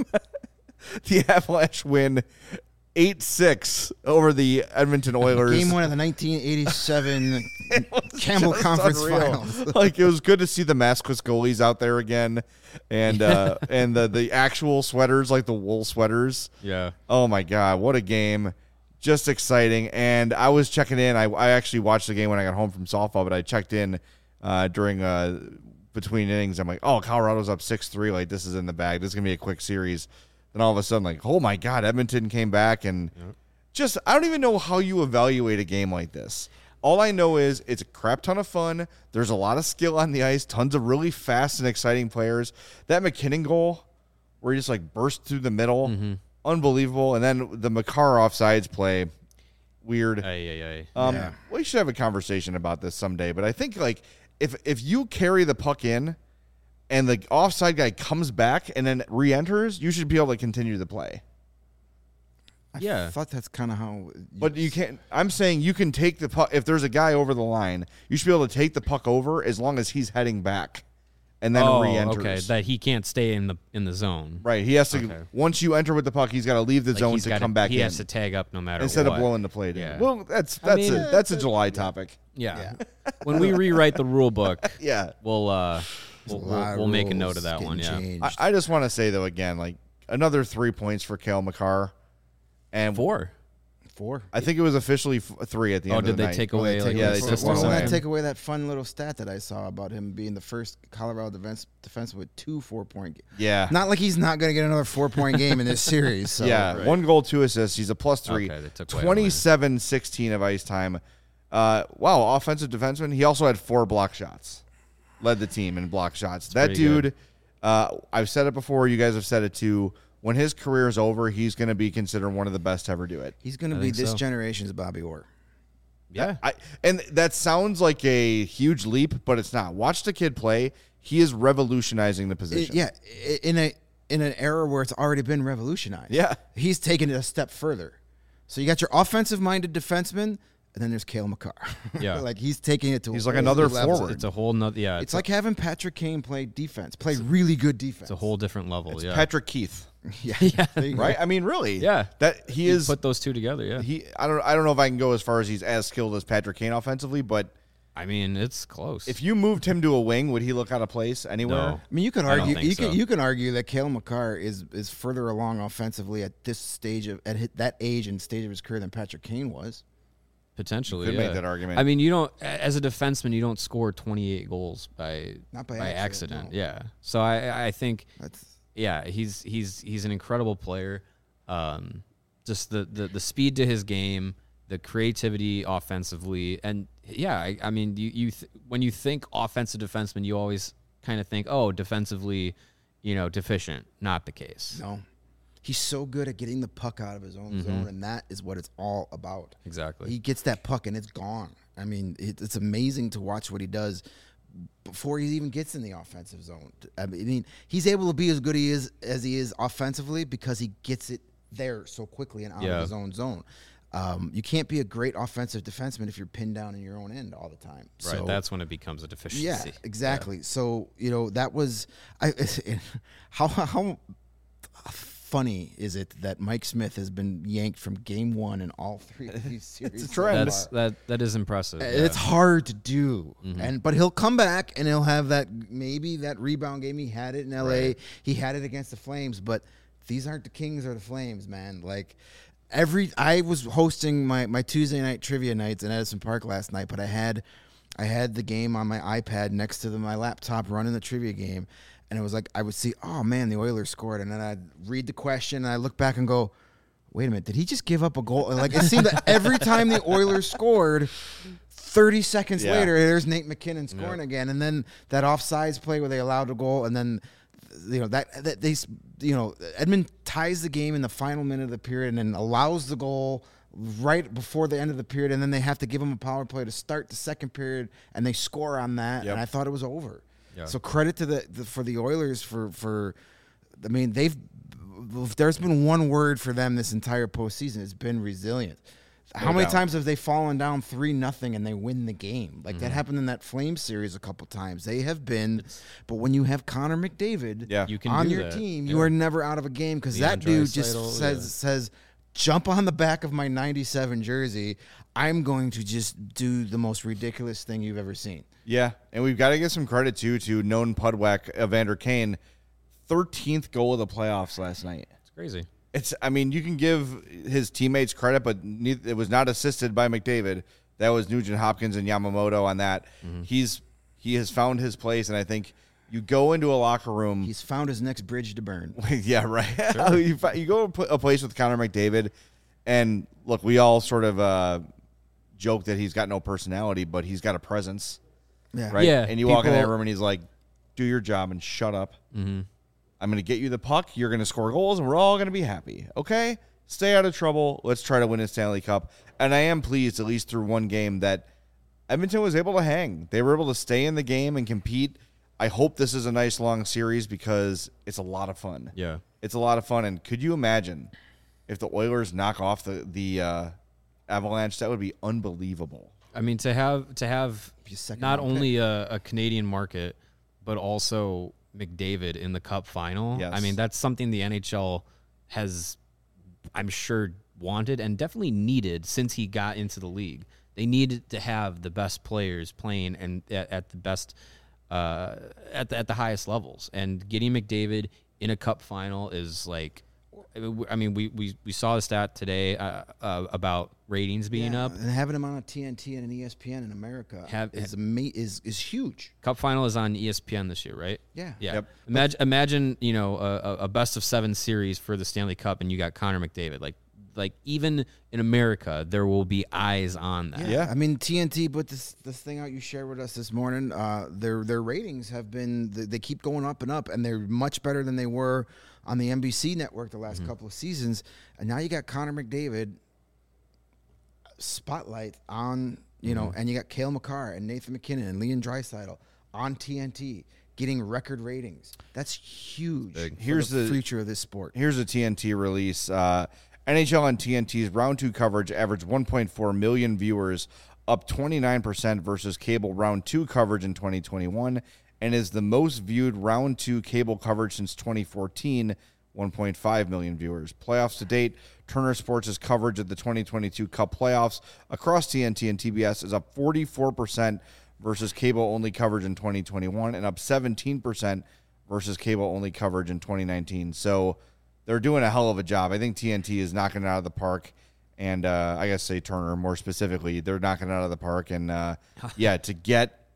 [SPEAKER 1] The Avalanche win eight six over the Edmonton Oilers.
[SPEAKER 2] Game one of the nineteen eighty-seven Campbell
[SPEAKER 1] Just
[SPEAKER 2] Conference
[SPEAKER 1] unreal.
[SPEAKER 2] Finals.
[SPEAKER 1] Like, it was good to see the maskless goalies out there again, and uh, and the, the actual sweaters, like the wool sweaters.
[SPEAKER 3] Yeah.
[SPEAKER 1] Oh, my God, what a game. Just exciting. And I was checking in. I, I actually watched the game when I got home from softball, but I checked in uh, during uh, between innings. I'm like, oh, Colorado's up six three. Like, this is in the bag. This is going to be a quick series. Then all of a sudden, like, oh, my God, Edmonton came back. And yep. just, I don't even know how you evaluate a game like this. All I know is it's a crap ton of fun. There's a lot of skill on the ice, tons of really fast and exciting players. That McKinnon goal where he just, like, burst through the middle. Mm-hmm. Unbelievable. And then the Makar offsides play, weird.
[SPEAKER 3] Aye, aye,
[SPEAKER 1] aye. Um,
[SPEAKER 2] yeah.
[SPEAKER 1] We should have a conversation about this someday. But I think, like, if if you carry the puck in and the offside guy comes back and then re-enters, you should be able to continue the play.
[SPEAKER 2] I
[SPEAKER 3] Yeah.
[SPEAKER 2] thought that's kind of how.
[SPEAKER 1] But you can't. I'm saying you can take the puck. If there's a guy over the line, you should be able to take the puck over as long as he's heading back and then
[SPEAKER 3] oh,
[SPEAKER 1] re-enters.
[SPEAKER 3] okay. That he can't stay in the in the zone.
[SPEAKER 1] Right. He has to.
[SPEAKER 3] Okay.
[SPEAKER 1] Once you enter with the puck, he's got to leave the
[SPEAKER 3] Like,
[SPEAKER 1] zone
[SPEAKER 3] he's
[SPEAKER 1] to
[SPEAKER 3] gotta-
[SPEAKER 1] come back
[SPEAKER 3] he
[SPEAKER 1] in.
[SPEAKER 3] has to tag up no matter
[SPEAKER 1] Instead
[SPEAKER 3] what.
[SPEAKER 1] of blowing the plate in.
[SPEAKER 3] Yeah.
[SPEAKER 1] Well, that's
[SPEAKER 3] I
[SPEAKER 1] that's
[SPEAKER 3] mean,
[SPEAKER 1] a that's a July topic.
[SPEAKER 3] Yeah. when we rewrite the rule book,
[SPEAKER 1] Yeah.
[SPEAKER 3] we'll uh we'll,
[SPEAKER 2] A lot
[SPEAKER 3] we'll,
[SPEAKER 2] of
[SPEAKER 3] we'll make a
[SPEAKER 2] rules
[SPEAKER 3] note of that
[SPEAKER 2] getting
[SPEAKER 3] one. Yeah.
[SPEAKER 2] changed.
[SPEAKER 1] I, I just want to say though again, like another three points for Cale Makar, and
[SPEAKER 3] Four.
[SPEAKER 2] Four.
[SPEAKER 1] I think it was officially f- three at the
[SPEAKER 3] Oh,
[SPEAKER 1] end.
[SPEAKER 3] did
[SPEAKER 1] of the
[SPEAKER 3] they
[SPEAKER 1] night.
[SPEAKER 3] take
[SPEAKER 2] Oh,
[SPEAKER 3] away?
[SPEAKER 2] they
[SPEAKER 3] like,
[SPEAKER 2] take
[SPEAKER 1] yeah,
[SPEAKER 2] away
[SPEAKER 1] they
[SPEAKER 2] four.
[SPEAKER 1] took
[SPEAKER 2] Well,
[SPEAKER 1] one
[SPEAKER 2] doesn't
[SPEAKER 1] away.
[SPEAKER 2] that take away that fun little stat that I saw about him being the first Colorado defense defense with two four point?
[SPEAKER 1] Yeah.
[SPEAKER 2] Not like he's not going to get another four point game in this series. So.
[SPEAKER 1] yeah,
[SPEAKER 3] right.
[SPEAKER 1] one goal, two assists. He's a plus three.
[SPEAKER 3] Okay, they took away
[SPEAKER 1] twenty-seven sixteen of ice time. Uh, wow, offensive defenseman. He also had four block shots. Led the team in block shots. That
[SPEAKER 3] pretty
[SPEAKER 1] dude,
[SPEAKER 3] good.
[SPEAKER 1] uh, I've said it before. You guys have said it too. When his career is over, he's going to be considered one of the best to ever do it.
[SPEAKER 2] He's going to
[SPEAKER 3] I
[SPEAKER 2] be
[SPEAKER 3] think
[SPEAKER 2] this
[SPEAKER 3] so.
[SPEAKER 2] generation's Bobby Orr.
[SPEAKER 3] Yeah.
[SPEAKER 1] I, and that sounds like a huge leap, but it's not. Watch the kid play. He is revolutionizing the
[SPEAKER 2] It-
[SPEAKER 1] position.
[SPEAKER 2] yeah, i- in a in an era where it's already been revolutionized.
[SPEAKER 1] Yeah.
[SPEAKER 2] He's taken it a step further. So you got your offensive-minded defenseman and then there's Cale Makar.
[SPEAKER 3] Yeah.
[SPEAKER 2] like he's taking it to.
[SPEAKER 1] He's
[SPEAKER 2] a
[SPEAKER 1] like
[SPEAKER 2] whole
[SPEAKER 1] another
[SPEAKER 2] new level.
[SPEAKER 1] forward.
[SPEAKER 3] It's a whole nother. Yeah,
[SPEAKER 2] It's like having Patrick Kane play defense, play really good defense.
[SPEAKER 3] it's a whole different level.
[SPEAKER 1] It's
[SPEAKER 3] yeah.
[SPEAKER 1] Patrick Keith,
[SPEAKER 2] yeah,
[SPEAKER 3] Yeah.
[SPEAKER 2] there you go.
[SPEAKER 1] right? I mean, really,
[SPEAKER 3] Yeah.
[SPEAKER 1] That he
[SPEAKER 3] You
[SPEAKER 1] is.
[SPEAKER 3] put those two together. Yeah.
[SPEAKER 1] He, I don't, I don't know if I can go as far as he's as skilled as Patrick Kane offensively, but
[SPEAKER 3] I mean, it's close.
[SPEAKER 1] if you moved him to a wing, would he look out of place anywhere?
[SPEAKER 3] No.
[SPEAKER 2] I mean, you could
[SPEAKER 3] I don't
[SPEAKER 2] argue
[SPEAKER 3] think
[SPEAKER 2] you
[SPEAKER 3] so.
[SPEAKER 2] can you can argue that Cale Makar is is further along offensively at this stage of at hi- that age and stage of his career than Patrick Kane was.
[SPEAKER 3] Potentially,
[SPEAKER 1] Could
[SPEAKER 3] yeah.
[SPEAKER 1] make that argument.
[SPEAKER 3] I mean, you don't as a defenseman, you don't score twenty-eight goals by
[SPEAKER 2] Not by
[SPEAKER 3] accident.
[SPEAKER 2] accident, no.
[SPEAKER 3] Yeah. So I I think
[SPEAKER 2] That's
[SPEAKER 3] yeah, he's he's he's an incredible player. Um, just the, the the speed to his game, the creativity offensively, and yeah, I, I mean, you you th- when you think offensive defenseman, you always kind of think, oh, defensively, you know, deficient. Not the case.
[SPEAKER 2] no. He's so good at getting the puck out of his own zone, and that is what it's all about.
[SPEAKER 3] Exactly.
[SPEAKER 2] He gets that puck and it's gone. I mean, it, it's amazing to watch what he does before he even gets in the offensive zone. I mean, he's able to be as good he is as he is offensively because he gets it there so quickly and out
[SPEAKER 3] Yeah.
[SPEAKER 2] of his own zone. Um, you can't be a great offensive defenseman if you're pinned down in your own end all the time.
[SPEAKER 3] Right.
[SPEAKER 2] So,
[SPEAKER 3] That's when it becomes a deficiency.
[SPEAKER 2] yeah, exactly. So you know that was I. How how funny is it that Mike Smith has been yanked from game one in all three of these series?
[SPEAKER 1] a trend.
[SPEAKER 2] so
[SPEAKER 3] That's
[SPEAKER 2] far?
[SPEAKER 3] that that is impressive. yeah.
[SPEAKER 2] It's hard to do,
[SPEAKER 3] Mm-hmm.
[SPEAKER 2] and but he'll come back and he'll have that maybe that rebound game. He had it in L A.
[SPEAKER 3] Right.
[SPEAKER 2] He had it against the Flames, but these aren't the Kings or the Flames, man. Like every I was hosting my my Tuesday night trivia nights in Edison Park last night, but I had I had the game on my iPad next to the, my laptop running the trivia game, and it was like I would see, oh man, the Oilers scored, and then I'd read the question and I look back and go, wait a minute, did he just give up a goal? Like it seemed that every time the Oilers scored, thirty seconds
[SPEAKER 1] Yeah.
[SPEAKER 2] later, there's Nate McKinnon scoring again, and then that offsides play where they allowed a goal, and then you know that, that they you know Edmund ties the game in the final minute of the period and then allows the goal right before the end of the period, and then they have to give them a power play to start the second period, and they score on that,
[SPEAKER 1] Yep.
[SPEAKER 2] and I thought it was over.
[SPEAKER 3] Yeah.
[SPEAKER 2] So credit to the, the for the Oilers for for, I mean they've if there's been one word for them this entire postseason, it's been resilient. How many
[SPEAKER 1] doubt.
[SPEAKER 2] times have they fallen down three nothing and they win the game? Like that happened in that Flames series a couple times. They have been, but when you have Connor McDavid
[SPEAKER 1] Yeah.
[SPEAKER 3] You can
[SPEAKER 2] on
[SPEAKER 3] do
[SPEAKER 2] your
[SPEAKER 3] that.
[SPEAKER 2] team, you
[SPEAKER 3] Yeah.
[SPEAKER 2] are never out of a game because
[SPEAKER 3] Leon
[SPEAKER 2] that dude just
[SPEAKER 3] Draisaitl,
[SPEAKER 2] says
[SPEAKER 3] yeah.
[SPEAKER 2] says jump on the back of my ninety-seven jersey. I'm going to just do the most ridiculous thing you've ever seen.
[SPEAKER 1] Yeah, and we've got to give some credit too to known Pudwack, Evander Kane, thirteenth goal of the playoffs last night.
[SPEAKER 3] It's crazy.
[SPEAKER 1] It's, I mean, you can give his teammates credit, but neither, it was not assisted by McDavid. That was Nugent Hopkins and Yamamoto on that.
[SPEAKER 3] Mm-hmm.
[SPEAKER 1] He's he has found his place, and I think you go into a locker room.
[SPEAKER 2] He's found his next bridge to burn.
[SPEAKER 1] Yeah, right. you, fi- you go to a place with Connor McDavid, and look, we all sort of uh, joke that he's got no personality, but he's got a presence,
[SPEAKER 2] Yeah,
[SPEAKER 1] right?
[SPEAKER 3] Yeah,
[SPEAKER 1] And you walk in that
[SPEAKER 3] people-
[SPEAKER 1] room, and he's like, "Do your job and shut up.
[SPEAKER 3] Mm-hmm.
[SPEAKER 1] I'm going to get you the puck. You're going to score goals, and we're all going to be happy. Okay? Stay out of trouble. Let's try to win a Stanley Cup." And I am pleased, at least through one game, that Edmonton was able to hang. They were able to stay in the game and compete. I hope this is a nice long series because it's a lot of fun.
[SPEAKER 3] Yeah.
[SPEAKER 1] It's a lot of fun. And could you imagine if the Oilers knock off the the uh, Avalanche? That would be unbelievable.
[SPEAKER 3] I mean, to have to have
[SPEAKER 2] Be a second
[SPEAKER 3] not
[SPEAKER 2] round pick.
[SPEAKER 3] only a, a Canadian market, but also McDavid in the Cup final.
[SPEAKER 1] Yes.
[SPEAKER 3] I mean, that's something the N H L has, I'm sure, wanted and definitely needed since he got into the league. They needed to have the best players playing and at, at the best, uh, at the, at the highest levels. And getting McDavid in a Cup final is like, I mean, we we, we saw the stat today uh, uh, about ratings being
[SPEAKER 2] Yeah,
[SPEAKER 3] up.
[SPEAKER 2] and having him on a T N T and an E S P N in America
[SPEAKER 3] Have-
[SPEAKER 2] is ama- is is huge.
[SPEAKER 3] Cup final is on E S P N this year, right?
[SPEAKER 2] Yeah.
[SPEAKER 3] Yeah.
[SPEAKER 1] Yep.
[SPEAKER 3] Imagine, imagine, you know, a, a- a best of seven series for the Stanley Cup, and you got Connor McDavid. Like, like even in America, there will be eyes on that.
[SPEAKER 1] Yeah.
[SPEAKER 2] I mean T N T put this this thing out you shared with us this morning. Uh, their their ratings have been they they keep going up and up, and they're much better than they were on the N B C network the last couple of seasons. And now you got Connor McDavid spotlight on, you know, and you got Cale Makar and Nathan McKinnon and Leon Draisaitl on T N T getting record ratings. That's huge.
[SPEAKER 3] Big.
[SPEAKER 2] for
[SPEAKER 1] Here's
[SPEAKER 2] the
[SPEAKER 1] the-
[SPEAKER 2] future of this sport.
[SPEAKER 1] Here's a T N T release. Uh, N H L on T N T's round two coverage averaged one point four million viewers, up twenty-nine percent versus cable round two coverage in twenty twenty-one, and is the most viewed round two cable coverage since twenty fourteen, one point five million viewers. Playoffs to date, Turner Sports' coverage of the twenty twenty-two Cup playoffs across T N T and T B S is up forty-four percent versus cable-only coverage in twenty twenty-one, and up seventeen percent versus cable-only coverage in twenty nineteen. So they're doing a hell of a job. I think T N T is knocking it out of the park. And uh, I guess say Turner more specifically, they're knocking it out of the park. And, uh, yeah, to get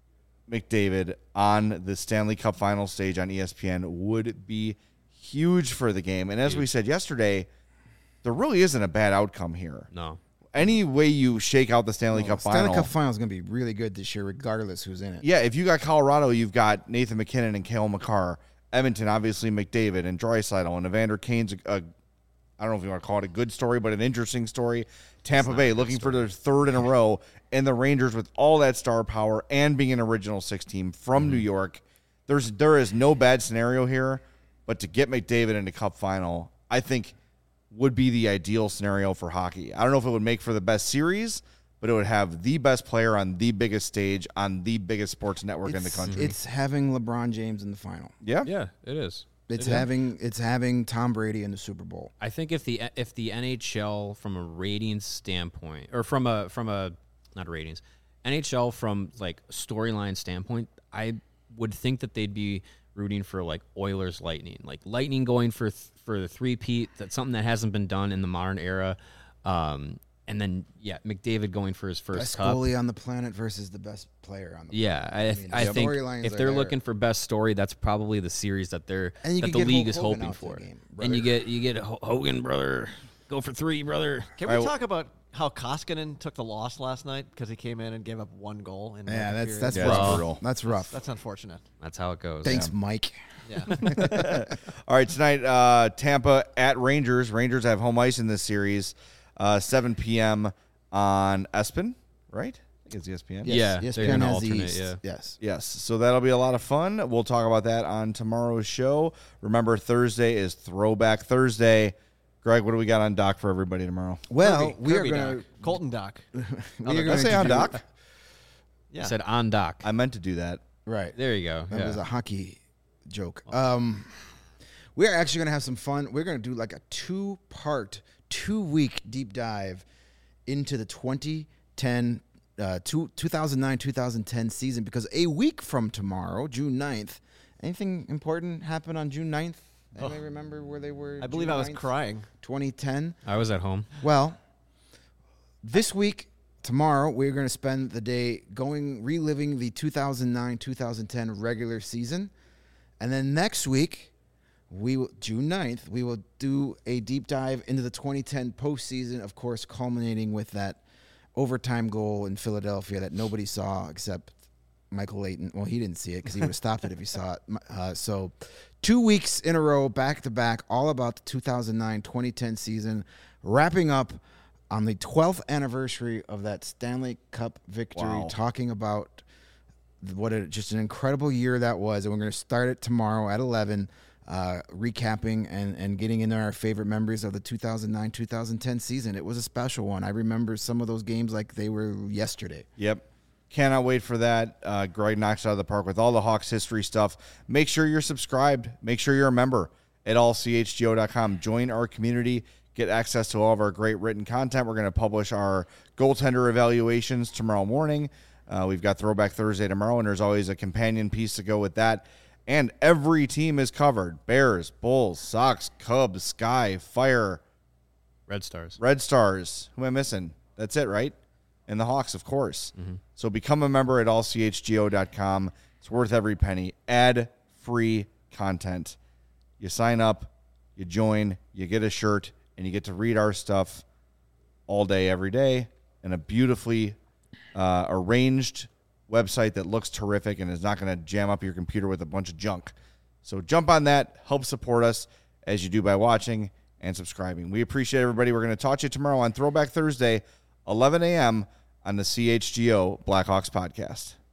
[SPEAKER 1] McDavid on the Stanley Cup final stage on E S P N would be huge for the game. And as we said yesterday, there really isn't a bad outcome here.
[SPEAKER 3] No.
[SPEAKER 1] Any way you shake out the Stanley
[SPEAKER 2] Well,
[SPEAKER 1] Cup
[SPEAKER 2] Stanley
[SPEAKER 1] final.
[SPEAKER 2] Cup final is going to be really good this year, regardless who's in it.
[SPEAKER 1] Yeah, if you got Colorado, you've got Nathan McKinnon and Cale Makar. Edmonton, obviously, McDavid and Draisaitl. And Evander Kane's, a, a, I don't know if you want to call it a good story, but an interesting story. Tampa Bay looking for their third in a row. And the Rangers with all that star power and being an original six team from mm-hmm. New York. There's There is no bad scenario here. But to get McDavid in the Cup final, I think would be the ideal scenario for hockey. I don't know if it would make for the best series, but it would have the best player on the biggest stage on the biggest sports network
[SPEAKER 2] it's,
[SPEAKER 1] in the country.
[SPEAKER 2] It's having LeBron James in the final.
[SPEAKER 1] Yeah,
[SPEAKER 3] Yeah, it is.
[SPEAKER 2] It's
[SPEAKER 3] It is.
[SPEAKER 2] having it's having Tom Brady in the Super Bowl.
[SPEAKER 3] I think if the if the N H L from a ratings standpoint, or from a from a not ratings, N H L from like storyline standpoint, I would think that they'd be rooting for like Oilers Lightning, like Lightning going for th- for the three-peat. That's something that hasn't been done in the modern era. Um, and then yeah, McDavid going for his first
[SPEAKER 2] Best
[SPEAKER 3] cup.
[SPEAKER 2] goalie on the planet versus the best player on the
[SPEAKER 3] Yeah, I,
[SPEAKER 2] I mean,
[SPEAKER 3] I
[SPEAKER 2] the
[SPEAKER 3] think
[SPEAKER 2] storylines
[SPEAKER 3] if
[SPEAKER 2] are
[SPEAKER 3] they're
[SPEAKER 2] there.
[SPEAKER 3] looking for best story, that's probably the series that they're
[SPEAKER 2] And you
[SPEAKER 3] that
[SPEAKER 2] could
[SPEAKER 3] the
[SPEAKER 2] get
[SPEAKER 3] league
[SPEAKER 2] Hulk
[SPEAKER 3] is
[SPEAKER 2] Hogan
[SPEAKER 3] hoping
[SPEAKER 2] out for
[SPEAKER 3] for.
[SPEAKER 2] the game,
[SPEAKER 3] and you
[SPEAKER 2] brother.
[SPEAKER 3] get you get Hogan, brother, go for three, brother.
[SPEAKER 4] Can we
[SPEAKER 1] I-
[SPEAKER 4] talk about how Koskinen took the loss last night because he came in and gave up one goal? In
[SPEAKER 2] Yeah,
[SPEAKER 4] one
[SPEAKER 2] that's
[SPEAKER 4] period?
[SPEAKER 2] that's
[SPEAKER 1] Yeah, that's
[SPEAKER 2] rough.
[SPEAKER 1] brutal.
[SPEAKER 2] That's rough.
[SPEAKER 4] That's unfortunate.
[SPEAKER 3] That's how it goes.
[SPEAKER 2] Thanks,
[SPEAKER 3] Yeah.
[SPEAKER 2] Mike.
[SPEAKER 4] Yeah.
[SPEAKER 1] All right, tonight, uh, Tampa at Rangers. Rangers have home ice in this series, uh, seven p.m. on ESPN, right? I think it's E S P N.
[SPEAKER 3] Yeah,
[SPEAKER 2] Yes,
[SPEAKER 3] they're
[SPEAKER 2] ESPN
[SPEAKER 3] gonna
[SPEAKER 2] has the
[SPEAKER 3] alternate,
[SPEAKER 2] East.
[SPEAKER 3] yeah.
[SPEAKER 2] Yes.
[SPEAKER 1] Yes, so that'll be a lot of fun. We'll talk about that on tomorrow's show. Remember, Thursday is Throwback Thursday. Greg, what do we got on dock for everybody tomorrow?
[SPEAKER 2] Well,
[SPEAKER 4] Kirby-
[SPEAKER 2] we
[SPEAKER 4] Kirby
[SPEAKER 2] are going
[SPEAKER 4] Doc. Colton Doc.
[SPEAKER 2] to we
[SPEAKER 1] Did
[SPEAKER 2] are
[SPEAKER 1] I
[SPEAKER 2] going
[SPEAKER 1] say on dock?
[SPEAKER 4] Yeah.
[SPEAKER 3] I said on dock.
[SPEAKER 1] I meant to do that.
[SPEAKER 2] Right.
[SPEAKER 3] There you go.
[SPEAKER 2] That
[SPEAKER 3] yeah.
[SPEAKER 2] was a hockey joke. Um, we're actually going to have some fun. We're going to do like a two-part, two-week deep dive into the twenty ten, uh, two, two thousand nine, two thousand ten season because a week from tomorrow, June ninth, anything important happened on June ninth? Anybody remember where they were?
[SPEAKER 4] I believe
[SPEAKER 2] June
[SPEAKER 4] I was
[SPEAKER 2] ninth,
[SPEAKER 4] crying.
[SPEAKER 2] twenty ten.
[SPEAKER 3] I was at home.
[SPEAKER 2] Well, this week, tomorrow, we're going to spend the day going, reliving the two thousand nine, two thousand ten regular season. And then next week, we will, June ninth, we will do a deep dive into the twenty ten postseason, of course, culminating with that overtime goal in Philadelphia that nobody saw except Michael Layton. Well, he didn't see it because he would have stopped it if he saw it. Uh, so two weeks in a row, back to back, all about the two thousand nine, twenty ten season, wrapping up on the twelfth anniversary of that Stanley Cup victory,
[SPEAKER 1] Wow.
[SPEAKER 2] talking about what a, just an incredible year that was. And we're going to start it tomorrow at eleven, uh, recapping and, and getting into our favorite memories of the two thousand nine, two thousand ten season. It was a special one. I remember some of those games like they were yesterday.
[SPEAKER 1] Yep. Cannot wait for that. Uh, Greg knocks it out of the park with all the Hawks history stuff. Make sure you're subscribed. Make sure you're a member at all c h g o dot com. Join our community. Get access to all of our great written content. We're going to publish our goaltender evaluations tomorrow morning. Uh, we've got Throwback Thursday tomorrow, and there's always a companion piece to go with that. And every team is covered. Bears, Bulls, Sox, Cubs, Sky, Fire,
[SPEAKER 3] Red Stars.
[SPEAKER 1] Red Stars. Who am I missing? That's it, right? And the Hawks, of course.
[SPEAKER 3] Mm-hmm.
[SPEAKER 1] So become a member at all c h g o dot com. It's worth every penny. Ad-free content. You sign up, you join, you get a shirt, and you get to read our stuff all day, every day, in a beautifully uh, arranged website that looks terrific and is not going to jam up your computer with a bunch of junk. So jump on that. Help support us as you do by watching and subscribing. We appreciate everybody. We're going to talk to you tomorrow on Throwback Thursday, eleven a.m. on the C H G O Blackhawks podcast.